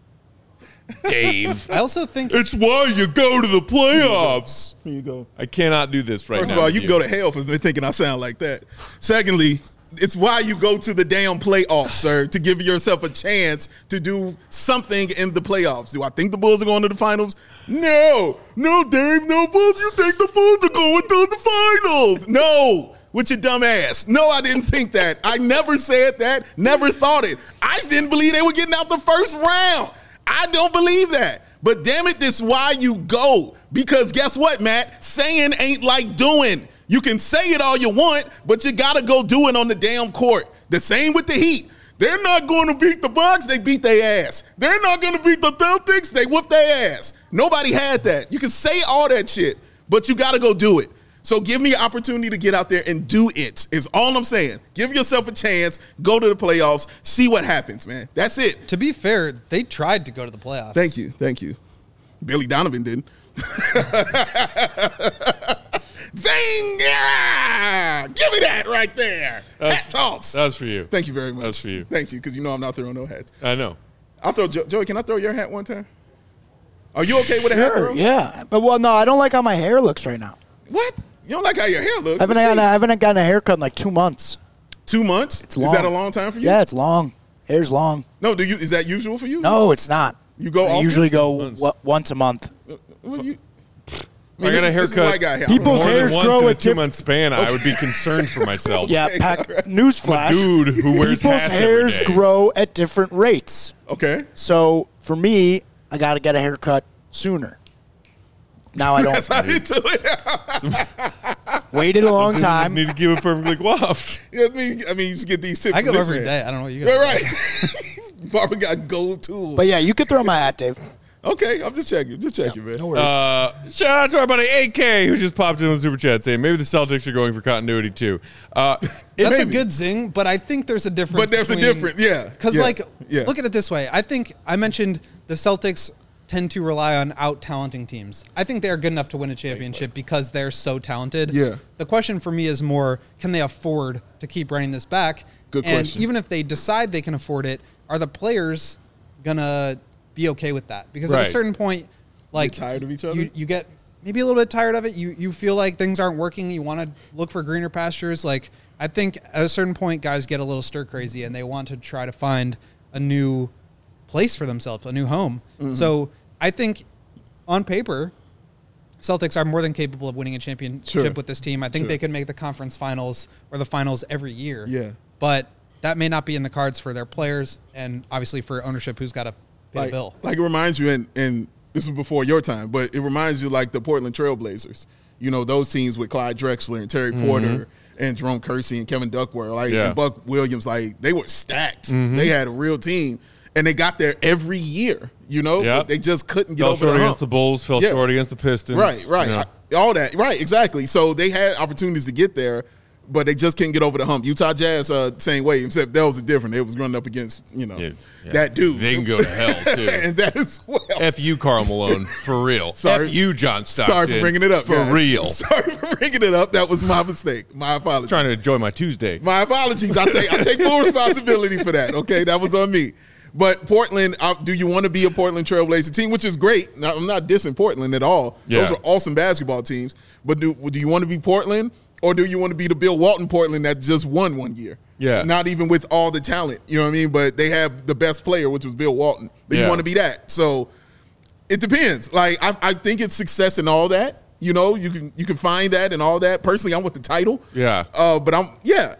Dave. I also think It's why you go to the playoffs. Here you go. I cannot do this right now. First of all, with you can go to hell for thinking I sound like that. Secondly, it's why you go to the damn playoffs, sir, to give yourself a chance to do something in the playoffs. Do I think the Bulls are going to the finals? No, Dave, no, Bulls. You think the Bulls are going to the finals? No, with your dumb ass. No, I didn't think that. I never said that, never thought it. I just didn't believe they were getting out the first round. I don't believe that. But damn it, this is why you go. Because guess what, Matt? Saying ain't like doing. You can say it all you want, but you got to go do it on the damn court. The same with the Heat. They're not going to beat the Bucks. They beat their ass. They're not going to beat the Celtics. They whoop their ass. Nobody had that. You can say all that shit, but you got to go do it. So give me an opportunity to get out there and do it is all I'm saying. Give yourself a chance. Go to the playoffs. See what happens, man. That's it. to be fair, they tried to go to the playoffs. Thank you. Billy Donovan didn't. Zing! Yeah! Give me that right there. Hat toss. That was for you. Thank you very much. That's for you. Thank you, because you know I'm not throwing no hats. I know. I'll throw Joey. Can I throw your hat one time? Are you okay with a hat Sure, throw? yeah. But, well, no, I don't like how my hair looks right now. What? You don't like how your hair looks? I haven't gotten a haircut in like 2 months. 2 months? It's long. Is that a long time for you? Yeah, it's long. Hair's long. No, is that usual for you? No, it's not. You go I often? usually go once a month. Well, I got a This is a white haircut guy hair. People's more hairs than once grow in a at 2 month span. I would be concerned for myself. Yeah, newsflash. Dude who wears People's hats hairs every day. grow at different rates. Okay. So for me, I got to get a haircut sooner. Now I That's don't. how you do it. Waited a long Just time. need to keep it perfectly coiffed. Yeah, I mean, you just get these tips. I go from this every man. day. I don't know what you guys. Right. Barbara got gold tools. But yeah, you could throw my hat, Dave. Okay, I'm just checking. Just checking, man. No worries. Shout out to our buddy AK who just popped in the super chat saying maybe the Celtics are going for continuity too. That's Maybe. a good zing, but I think there's a difference. But there's a difference, yeah. Because, Yeah, like, yeah. look at it this way. I think I mentioned the Celtics tend to rely on out-talenting teams. I think they are good enough to win a championship because they're so talented. Yeah. The question for me is more, can they afford to keep running this back? Good and question. even if they decide they can afford it, are the players going to be okay with that? Because at Right. a certain point, like, tired of each other? You get maybe a little bit tired of it. You feel like things aren't working. You want to look for greener pastures. Like, I think at a certain point, guys get a little stir crazy and they want to try to find a new place for themselves, a new home. Mm-hmm. So I think on paper, Celtics are more than capable of winning a championship Sure. with this team. I think Sure. they could make the conference finals or the finals every year. Yeah. But that may not be in the cards for their players and obviously for ownership who's got to pay the bill. Like it reminds you, and this was before your time, but it reminds you like the Portland Trailblazers. You know, those teams with Clyde Drexler and Terry Porter and Jerome Kersey and Kevin Duckworth, like Yeah. and Buck Williams, like they were stacked. They had a real team, and they got there every year. You know, Yep. but they just couldn't get Fell over short the hump. against the Bulls, fell Yeah. short against the Pistons. Right, right. You know. All that. Right, exactly. So they had opportunities to get there, but they just couldn't get over the hump. Utah Jazz, same way, except that was different. They was running up against, Yeah. that dude. They can go to hell, too. And that as well. F you, Karl Malone, for real. Sorry. F you, John Stockton. Sorry for bringing it up, For guys. real. Sorry for bringing it up. That was my mistake. My apologies. Trying to enjoy my Tuesday. My apologies. I take full responsibility for that. Okay, that was on me. But Portland, do you want to be a Portland Trailblazer team, which is great? Now, I'm not dissing Portland at all. Yeah. Those are awesome basketball teams. But do you want to be Portland, or do you want to be the Bill Walton Portland that just won one year? Yeah. Not even with all the talent, you know what I mean? But they have the best player, which was Bill Walton. Do you Yeah. want to be that? So it depends. Like I think it's success in all that. You know, you can find that and all that. Personally, I'm with the title. Yeah. But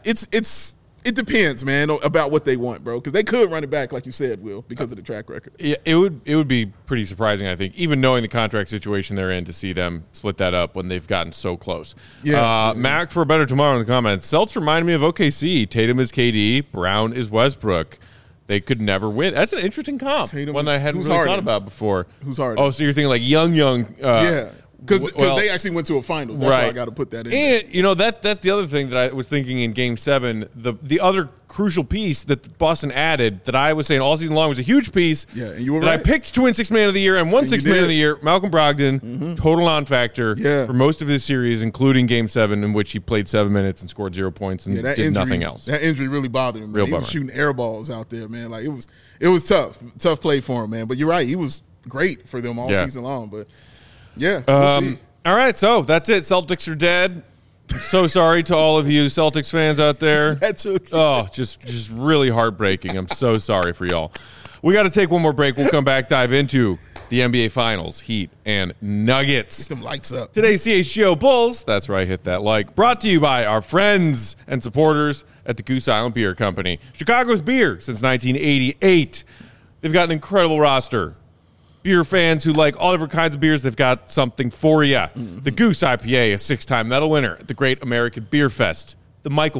it depends, man, about what they want, bro. Because they could run it back, like you said, Will, because of the track record. Yeah, it would be pretty surprising, I think, even knowing the contract situation they're in, to see them split that up when they've gotten so close. Yeah. Mac for a better tomorrow in the comments. Celtics remind me of OKC. Tatum is KD. Brown is Westbrook. They could never win. That's an interesting comp. Tatum one is- I hadn't who's really Harden? thought about before. Who's Harden? Oh, so you're thinking like young. Yeah. Because well, they actually went to a finals. That's why I got to put that in. And you know that's the other thing that I was thinking in Game 7. The other crucial piece that Boston added that I was saying all season long was a huge piece. Yeah, and you were that right. I picked to win Sixth Man of the Year and won And Sixth you Man did. of the Year. Malcolm Brogdon, total non-factor Yeah. for most of this series, including Game 7, in which he played 7 minutes and scored 0 points and Yeah, that did injury, nothing else. That injury really bothered him. Man. Real He was bummer. shooting air balls out there, man. Like it was tough play for him, man. But you're right, he was great for them all Yeah. season long. But yeah, we'll see. All right, so that's it. Celtics are dead. So sorry to all of you Celtics fans out there. That's okay. Oh, just really heartbreaking. I'm so sorry for y'all. We got to take one more break. We'll come back, dive into the NBA Finals, Heat and Nuggets. Them lights up. Today's CHGO Bulls, that's right, hit that like, brought to you by our friends and supporters at the Goose Island Beer Company. Chicago's beer since 1988. They've got an incredible roster. Beer fans who like all different kinds of beers, they've got something for you. The Goose IPA, a 6-time medal winner at the Great American Beer Fest. The Michael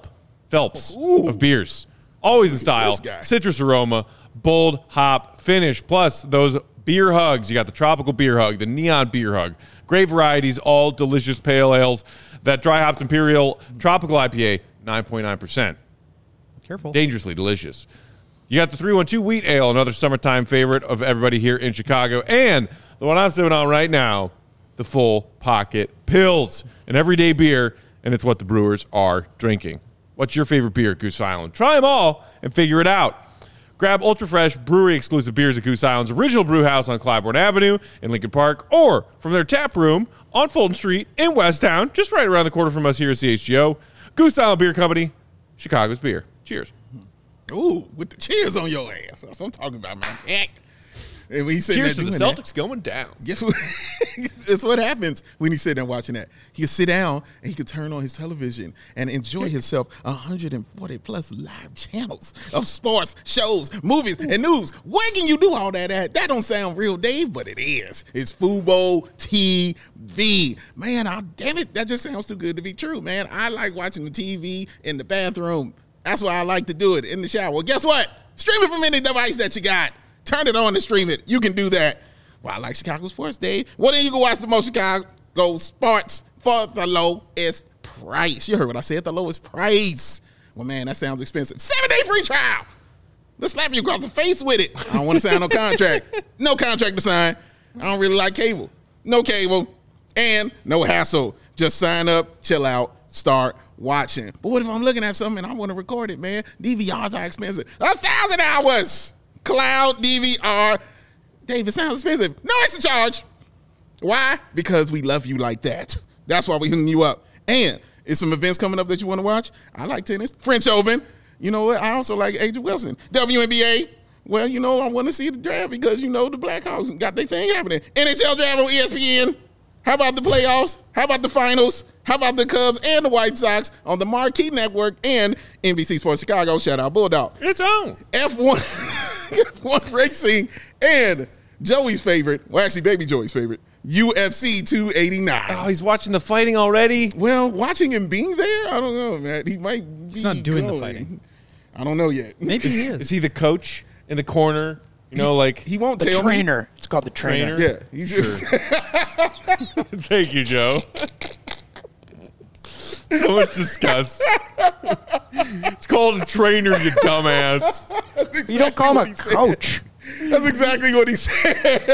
Phelps of beers. Always in style, This guy. citrus aroma, bold hop finish. Plus those beer hugs. You got the tropical beer hug, the neon beer hug. Great varieties, all delicious pale ales. That dry hopped Imperial Tropical IPA, 9.9%. Careful. Dangerously delicious. You got the 312 Wheat Ale, another summertime favorite of everybody here in Chicago. And the one I'm sipping on right now, the Full Pocket Pills. An everyday beer, and it's what the brewers are drinking. What's your favorite beer at Goose Island? Try them all and figure it out. Grab Ultra Fresh brewery-exclusive beers at Goose Island's original brew house on Clybourne Avenue in Lincoln Park, or from their tap room on Fulton Street in Westtown, just right around the corner from us here at CHGO. Goose Island Beer Company, Chicago's beer. Cheers. Ooh, with the cheers on your ass. That's what I'm talking about, man. Heck. And when he's sitting Cheers there to the doing Celtics going down. Guess what? That's what happens when he's sitting there watching that. He can sit down and he can turn on his television and enjoy himself 140 plus live channels of sports, shows, movies, and news. Where can you do all that at? That don't sound real, Dave, but it is. It's Fubo TV. Man, damn it, that just sounds too good to be true, man. I like watching the TV in the bathroom. That's why I like to do it in the shower. Well, guess what? Stream it from any device that you got. Turn it on and stream it. You can do that. Well, I like Chicago sports, Dave. Well, then you can watch the most Chicago sports for the lowest price. You heard what I said, the lowest price. Well, man, that sounds expensive. 7-day free trial. Let's slap you across the face with it. I don't want to sign no contract. No contract to sign. I don't really like cable. No cable. And no hassle. Just sign up, chill out, start watching. But what if I'm looking at something and I want to record it, man? DVRs are expensive. 1,000 hours. Cloud DVR. Dave, it sounds expensive. No extra charge. Why? Because we love you like that. That's why we hooking you up. And is some events coming up that you want to watch? I like tennis. French Open. You know what? I also like A'ja Wilson. WNBA. Well, you know, I want to see the draft because, you know, the Blackhawks got their thing happening. NHL draft on ESPN. How about the playoffs? How about the finals? How about the Cubs and the White Sox on the Marquee Network and NBC Sports Chicago? Shout out Bulldog. It's on. F1, F1 racing, and Joey's favorite, well, actually, baby Joey's favorite, UFC 289. Oh, he's watching the fighting already? Well, watching him being there, I don't know, man. He might be He's not doing going. the fighting. I don't know yet. Maybe he is. Is he the coach in the corner? You know, like. He won't The tell trainer. It's called the trainer. me. Yeah, he's just. Thank you, Joe. So much disgust. It's called a trainer, you dumbass. Exactly You don't call him what a he said. coach. That's exactly what he said.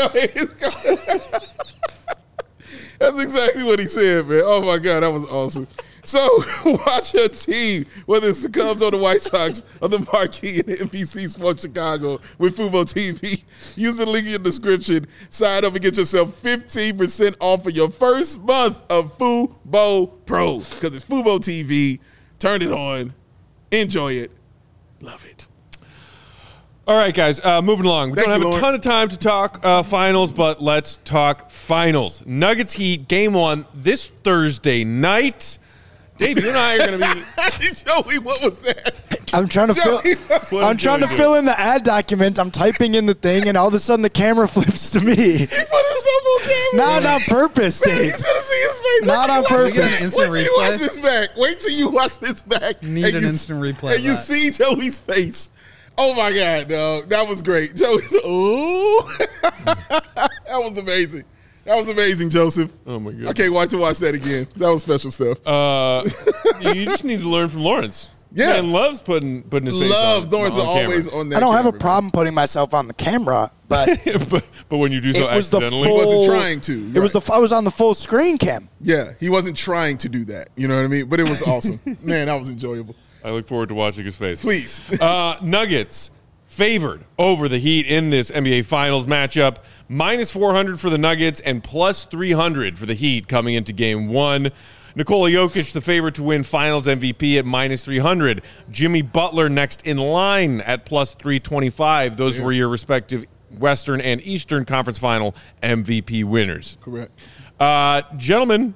That's exactly what he said, man. Oh, my God, that was awesome. So, watch your team, whether it's the Cubs or the White Sox or the Marquee and NBC Sports Chicago with Fubo TV. Use the link in the description. Sign up and get yourself 15% off of your first month of Fubo Pro. Because it's Fubo TV. Turn it on. Enjoy it. Love it. All right, guys, moving along. We Thank don't have you, a ton Lawrence. of time to talk finals, but let's talk finals. Nuggets Heat, game one, this Thursday night. Dave, you and I are going to be... Joey, what was that? I'm trying to fill. What I'm is trying to Joey fill in the ad document. I'm typing in the thing, and all of a sudden the camera flips to me. He put himself on camera. Not on purpose, Man, you Dave. should have seen his face. Not on Wait till you watch purpose. this. Instant Wait till you watch replay? this back. Wait till you watch this back. Need And an you- instant replay And you of that. see Joey's face. Oh, my God, dog. That was great. Joey's, ooh. That was amazing. That was amazing, Joseph. Oh, my God. I can't wait to watch that again. That was special stuff. You just need to learn from Lawrence. Yeah. Man loves putting his face Love on, Lawrence on camera. always on that I don't have a camera, problem putting myself on the camera, but but when you do so it was the accidentally... full. He wasn't trying to, It was right. I was on the full screen cam. Yeah, he wasn't trying to do that. You know what I mean? But it was awesome. Man, that was enjoyable. I look forward to watching his face. Please. Nuggets favored over the Heat in this NBA Finals matchup. Minus 400 for the Nuggets and plus 300 for the Heat coming into game one. Nikola Jokic, the favorite to win Finals MVP at minus 300. Jimmy Butler next in line at plus 325. Those were your respective Western and Eastern Conference Final MVP winners. Correct. Gentlemen,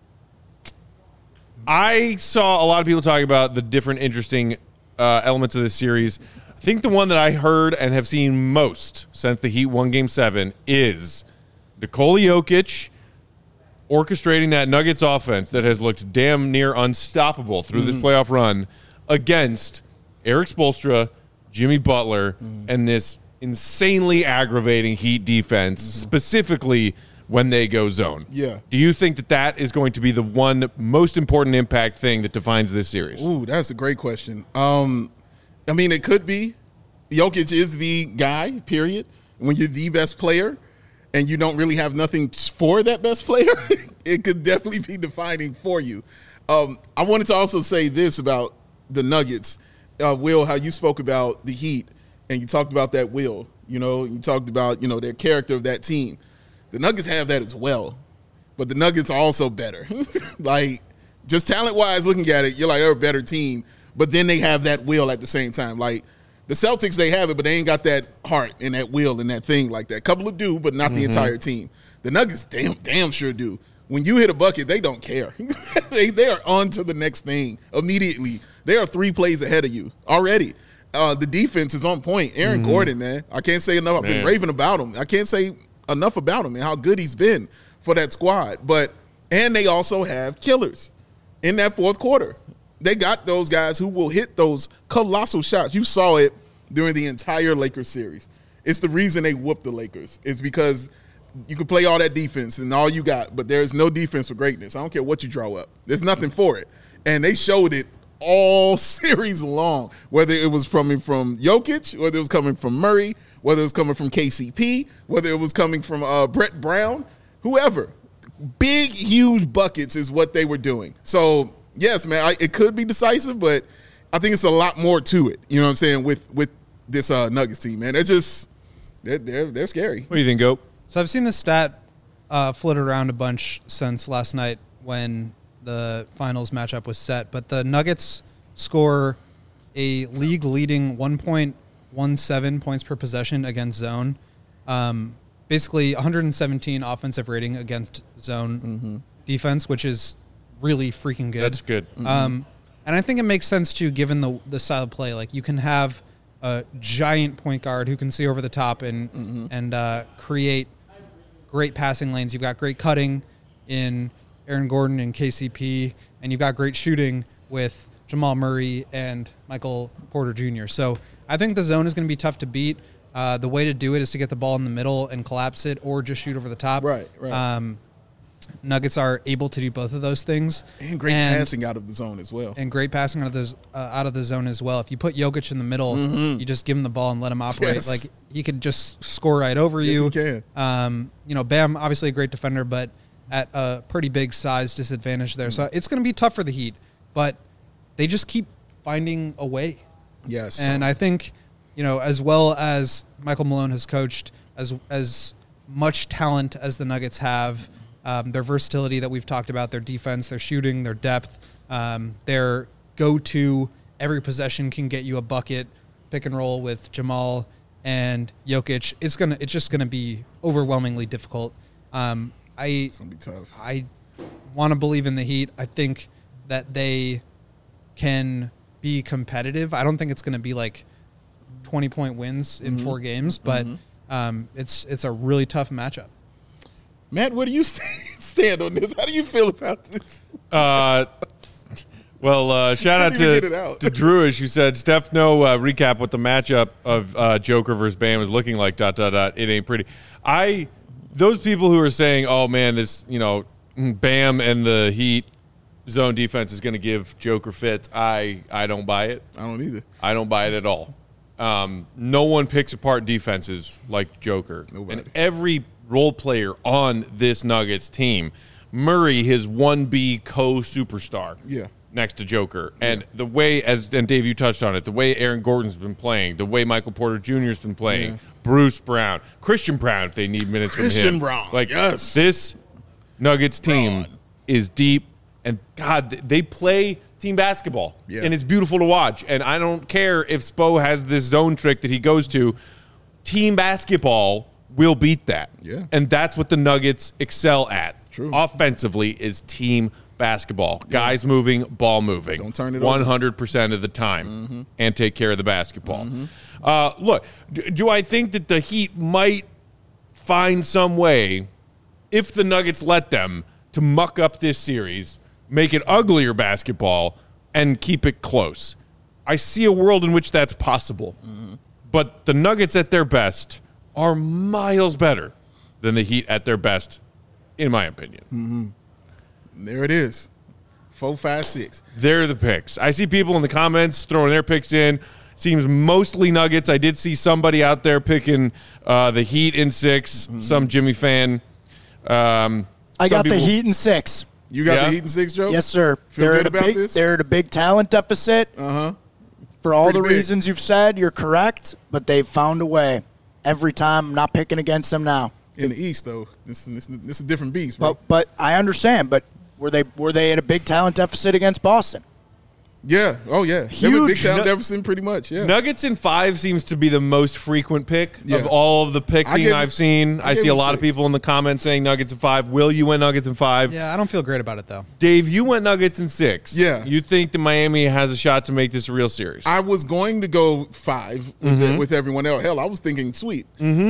I saw a lot of people talk about the different interesting elements of this series. I think the one that I heard and have seen most since the Heat won Game 7 is Nikola Jokic orchestrating that Nuggets offense that has looked damn near unstoppable through this playoff run against Eric Spoelstra, Jimmy Butler, and this insanely aggravating Heat defense, specifically when they go zone. Yeah. Do you think that that is going to be the one most important impact thing that defines this series? Ooh, that's a great question. I mean, it could be. Jokic is the guy, period. When you're the best player and you don't really have nothing for that best player, it could definitely be defining for you. I wanted to also say this about the Nuggets. Will, how you spoke about the Heat and you talked about that will. You know, you talked about, you know, their character of that team. The Nuggets have that as well. But the Nuggets are also better. Like, just talent-wise, looking at it, you're like, they're a better team. But then they have that will at the same time. Like, The Celtics, they have it, but they ain't got that heart and that will and that thing like that. A couple of do, but not the entire team. The Nuggets damn sure do. When you hit a bucket, they don't care. they are on to the next thing immediately. They are 3 plays ahead of you already. The defense is on point. Aaron Gordon, man. I can't say enough. I've been raving about him. I can't say enough about him and how good he's been for that squad. And they also have killers in that fourth quarter. They got those guys who will hit those colossal shots. You saw it during the entire Lakers series. It's the reason they whooped the Lakers. It's because you can play all that defense and all you got, but there is no defense for greatness. I don't care what you draw up. There's nothing for it. And they showed it all series long, whether it was coming from Jokic, whether it was coming from Murray, whether it was coming from KCP, whether it was coming from Brett Brown, whoever. Big, huge buckets is what they were doing. So, yes, man, it could be decisive, but I think it's a lot more to it. You know what I'm saying? With this Nuggets team, man, they're scary. What do you think, Goat? So I've seen this stat floated around a bunch since last night when the finals matchup was set. But the Nuggets score a league-leading 1.17 points per possession against zone. Basically, 117 offensive rating against zone defense, which is really freaking good. That's good. And I think it makes sense, too, given the style of play. Like, you can have a giant point guard who can see over the top and create great passing lanes. You've got great cutting in Aaron Gordon and KCP, and you've got great shooting with Jamal Murray and Michael Porter Jr. So I think the zone is going to be tough to beat. The way to do it is to get the ball in the middle and collapse it or just shoot over the top. Right. Nuggets are able to do both of those things. And great passing out of the zone as well. And great passing out of the zone as well. If you put Jokic in the middle, you just give him the ball and let him operate. Yes. Like, he could just score right over Yes, you. he can. Bam, obviously a great defender, but at a pretty big size disadvantage there. So it's going to be tough for the Heat, but they just keep finding a way. Yes. And I think, as well as Michael Malone has coached, as much talent as the Nuggets have, their versatility that we've talked about, their defense, their shooting, their depth, their go-to, every possession can get you a bucket, pick and roll with Jamal and Jokic. It's just gonna be overwhelmingly difficult. It's gonna be tough. I want to believe in the Heat. I think that they can be competitive. I don't think it's going to be like 20-point wins in 4 games, but it's a really tough matchup. Matt, where do you stand on this? How do you feel about this? Shout out to Drewish, who said, Steph, recap what the matchup of Joker versus Bam is looking like, ... It ain't pretty. Those people who are saying, oh, man, this, Bam and the Heat zone defense is going to give Joker fits, I don't buy it. I don't either. I don't buy it at all. No one picks apart defenses like Joker. Nobody. And every role player on this Nuggets team, Murray, his 1B co-superstar. Yeah. Next to Joker. And the way, and Dave, you touched on it, the way Aaron Gordon's been playing, the way Michael Porter Jr.'s been playing, Bruce Brown, Christian Brown, if they need minutes from him. Christian Brown, yes. This Nuggets team is deep, and, God, they play team basketball. Yeah. And it's beautiful to watch. And I don't care if Spo has this zone trick that he goes to. Team basketball will beat that. Yeah. And that's what the Nuggets excel at. True. Offensively is team basketball. Guys moving, ball moving. Don't turn it over. 100% of the time and take care of the basketball. Look, do I think that the Heat might find some way, if the Nuggets let them, to muck up this series, make it uglier basketball, and keep it close? I see a world in which that's possible. But the Nuggets at their best are miles better than the Heat at their best, in my opinion. There it is. 4, 5, 6. They're the picks. I see people in the comments throwing their picks in. Seems mostly Nuggets. I did see somebody out there picking the Heat in 6, some Jimmy fan. I got the Heat in 6. You got the Heat in 6, Joe? Yes, sir. Feel good about this? They're at a big talent deficit. For all Pretty the big. reasons you've said, you're correct, but they've found a way. Every time, I'm not picking against them now. In the East, though, this is a different beast, bro. But I understand. But were they at a big talent deficit against Boston? Yeah. Oh, yeah. They were Big Town Jefferson pretty much. Yeah. Nuggets in 5 seems to be the most frequent pick Yeah. of all of the picking I've seen. I see a lot of 6. people in the comments saying Nuggets in 5. Will, you went Nuggets in 5. Yeah, I don't feel great about it though. Dave, you went Nuggets in 6. Yeah. You think that Miami has a shot to make this a real series? I was going to go 5 with everyone else. Hell, I was thinking sweep.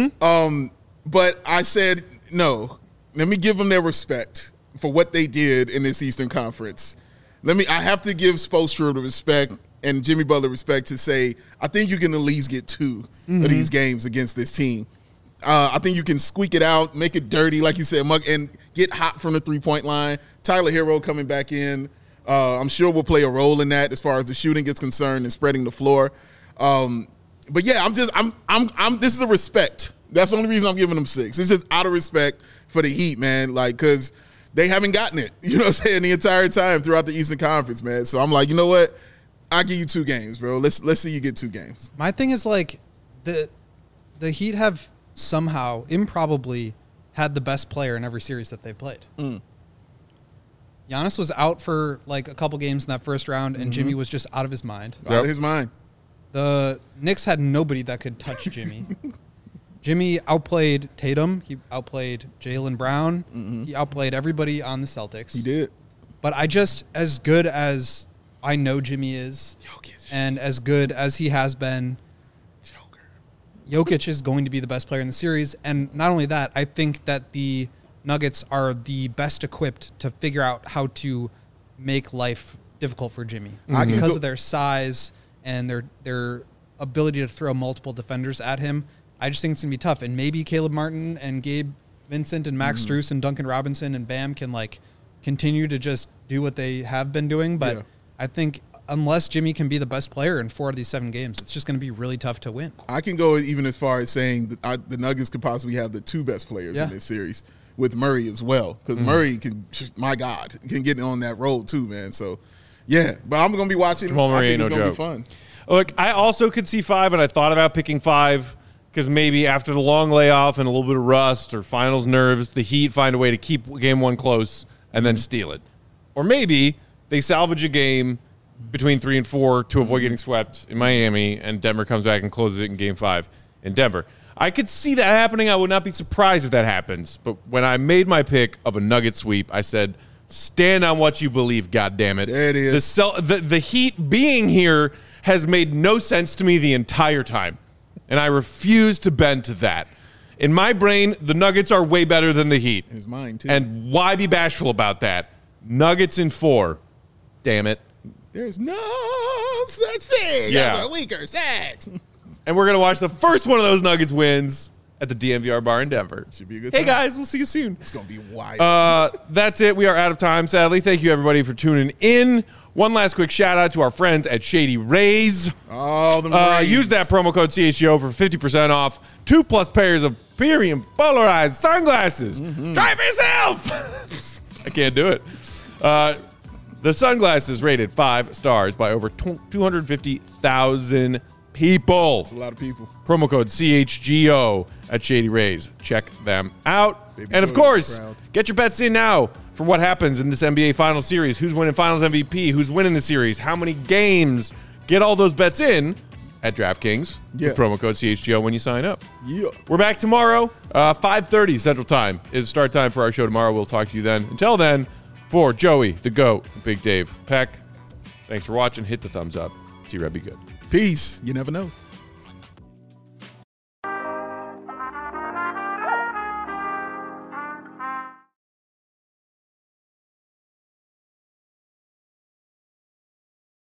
But I said, no, let me give them their respect for what they did in this Eastern Conference. I have to give Spoelstra the respect and Jimmy Butler respect to say, I think you can at least get 2 of these games against this team. I think you can squeak it out, make it dirty, like you said, and get hot from the three-point line. Tyler Hero coming back in, I'm sure will play a role in that as far as the shooting is concerned and spreading the floor. But yeah, this is a respect. That's the only reason I'm giving them 6. It's just out of respect for the Heat, man. Like, because they haven't gotten it, you know what I'm saying, the entire time throughout the Eastern Conference, man. So I'm like, you know what? I'll give you 2 games, bro. Let's see you get 2 games. My thing is like the Heat have somehow improbably had the best player in every series that they've played. Giannis was out for like a couple games in that first round, and Jimmy was just out of his mind. Out of his mind. The Knicks had nobody that could touch Jimmy. Jimmy outplayed Tatum. He outplayed Jaylen Brown. He outplayed everybody on the Celtics. He did. But as good as I know Jimmy is, Jokic. and as good as he has been, Jokic is going to be the best player in the series. And not only that, I think that the Nuggets are the best equipped to figure out how to make life difficult for Jimmy because of their size and their ability to throw multiple defenders at him. I just think it's going to be tough. And maybe Caleb Martin and Gabe Vincent and Max Strus and Duncan Robinson and Bam can like continue to just do what they have been doing. But I think unless Jimmy can be the best player in 4 of these 7 games, it's just going to be really tough to win. I can go even as far as saying that the Nuggets could possibly have the 2 best players in this series with Murray as well. Because Murray can, my God, can get on that roll too, man. So, yeah. But I'm going to be watching. I think it's going to be fun. Look, I also could see 5, and I thought about picking 5 because maybe after the long layoff and a little bit of rust or finals nerves, the Heat find a way to keep game 1 close and then steal it. Or maybe they salvage a game between 3 and 4 to avoid getting swept in Miami, and Denver comes back and closes it in game 5 in Denver. I could see that happening. I would not be surprised if that happens. But when I made my pick of a Nugget sweep, I said, stand on what you believe, goddammit. There it is. The Heat being here has made no sense to me the entire time. And I refuse to bend to that. In my brain, the Nuggets are way better than the Heat. His mind, too. And why be bashful about that? Nuggets in 4. Damn it. There's no such thing as a weaker sex. And we're going to watch the first one of those Nuggets wins at the DMVR bar in Denver. Should be a good Hey, time. guys, we'll see you soon. It's going to be wild. That's it. We are out of time, sadly. Thank you, everybody, for tuning in. One last quick shout-out to our friends at Shady Rays. Oh, the Rays. Use that promo code CHGO for 50% off 2+ pairs of premium polarized sunglasses. Try for yourself. I can't do it. The sunglasses rated 5 stars by over 250,000 people. That's a lot of people. Promo code CHGO at Shady Rays. Check them out. Baby and of Jordan, course, proud. get your bets in now for what happens in this NBA Finals series. Who's winning Finals MVP? Who's winning the series? How many games? Get all those bets in at DraftKings with promo code CHGO when you sign up. Yeah. We're back tomorrow, 5:30 Central Time is start time for our show tomorrow. We'll talk to you then. Until then, for Joey, the GOAT, Big Dave Peck, thanks for watching. Hit the thumbs up. See Red be good. Peace. You never know.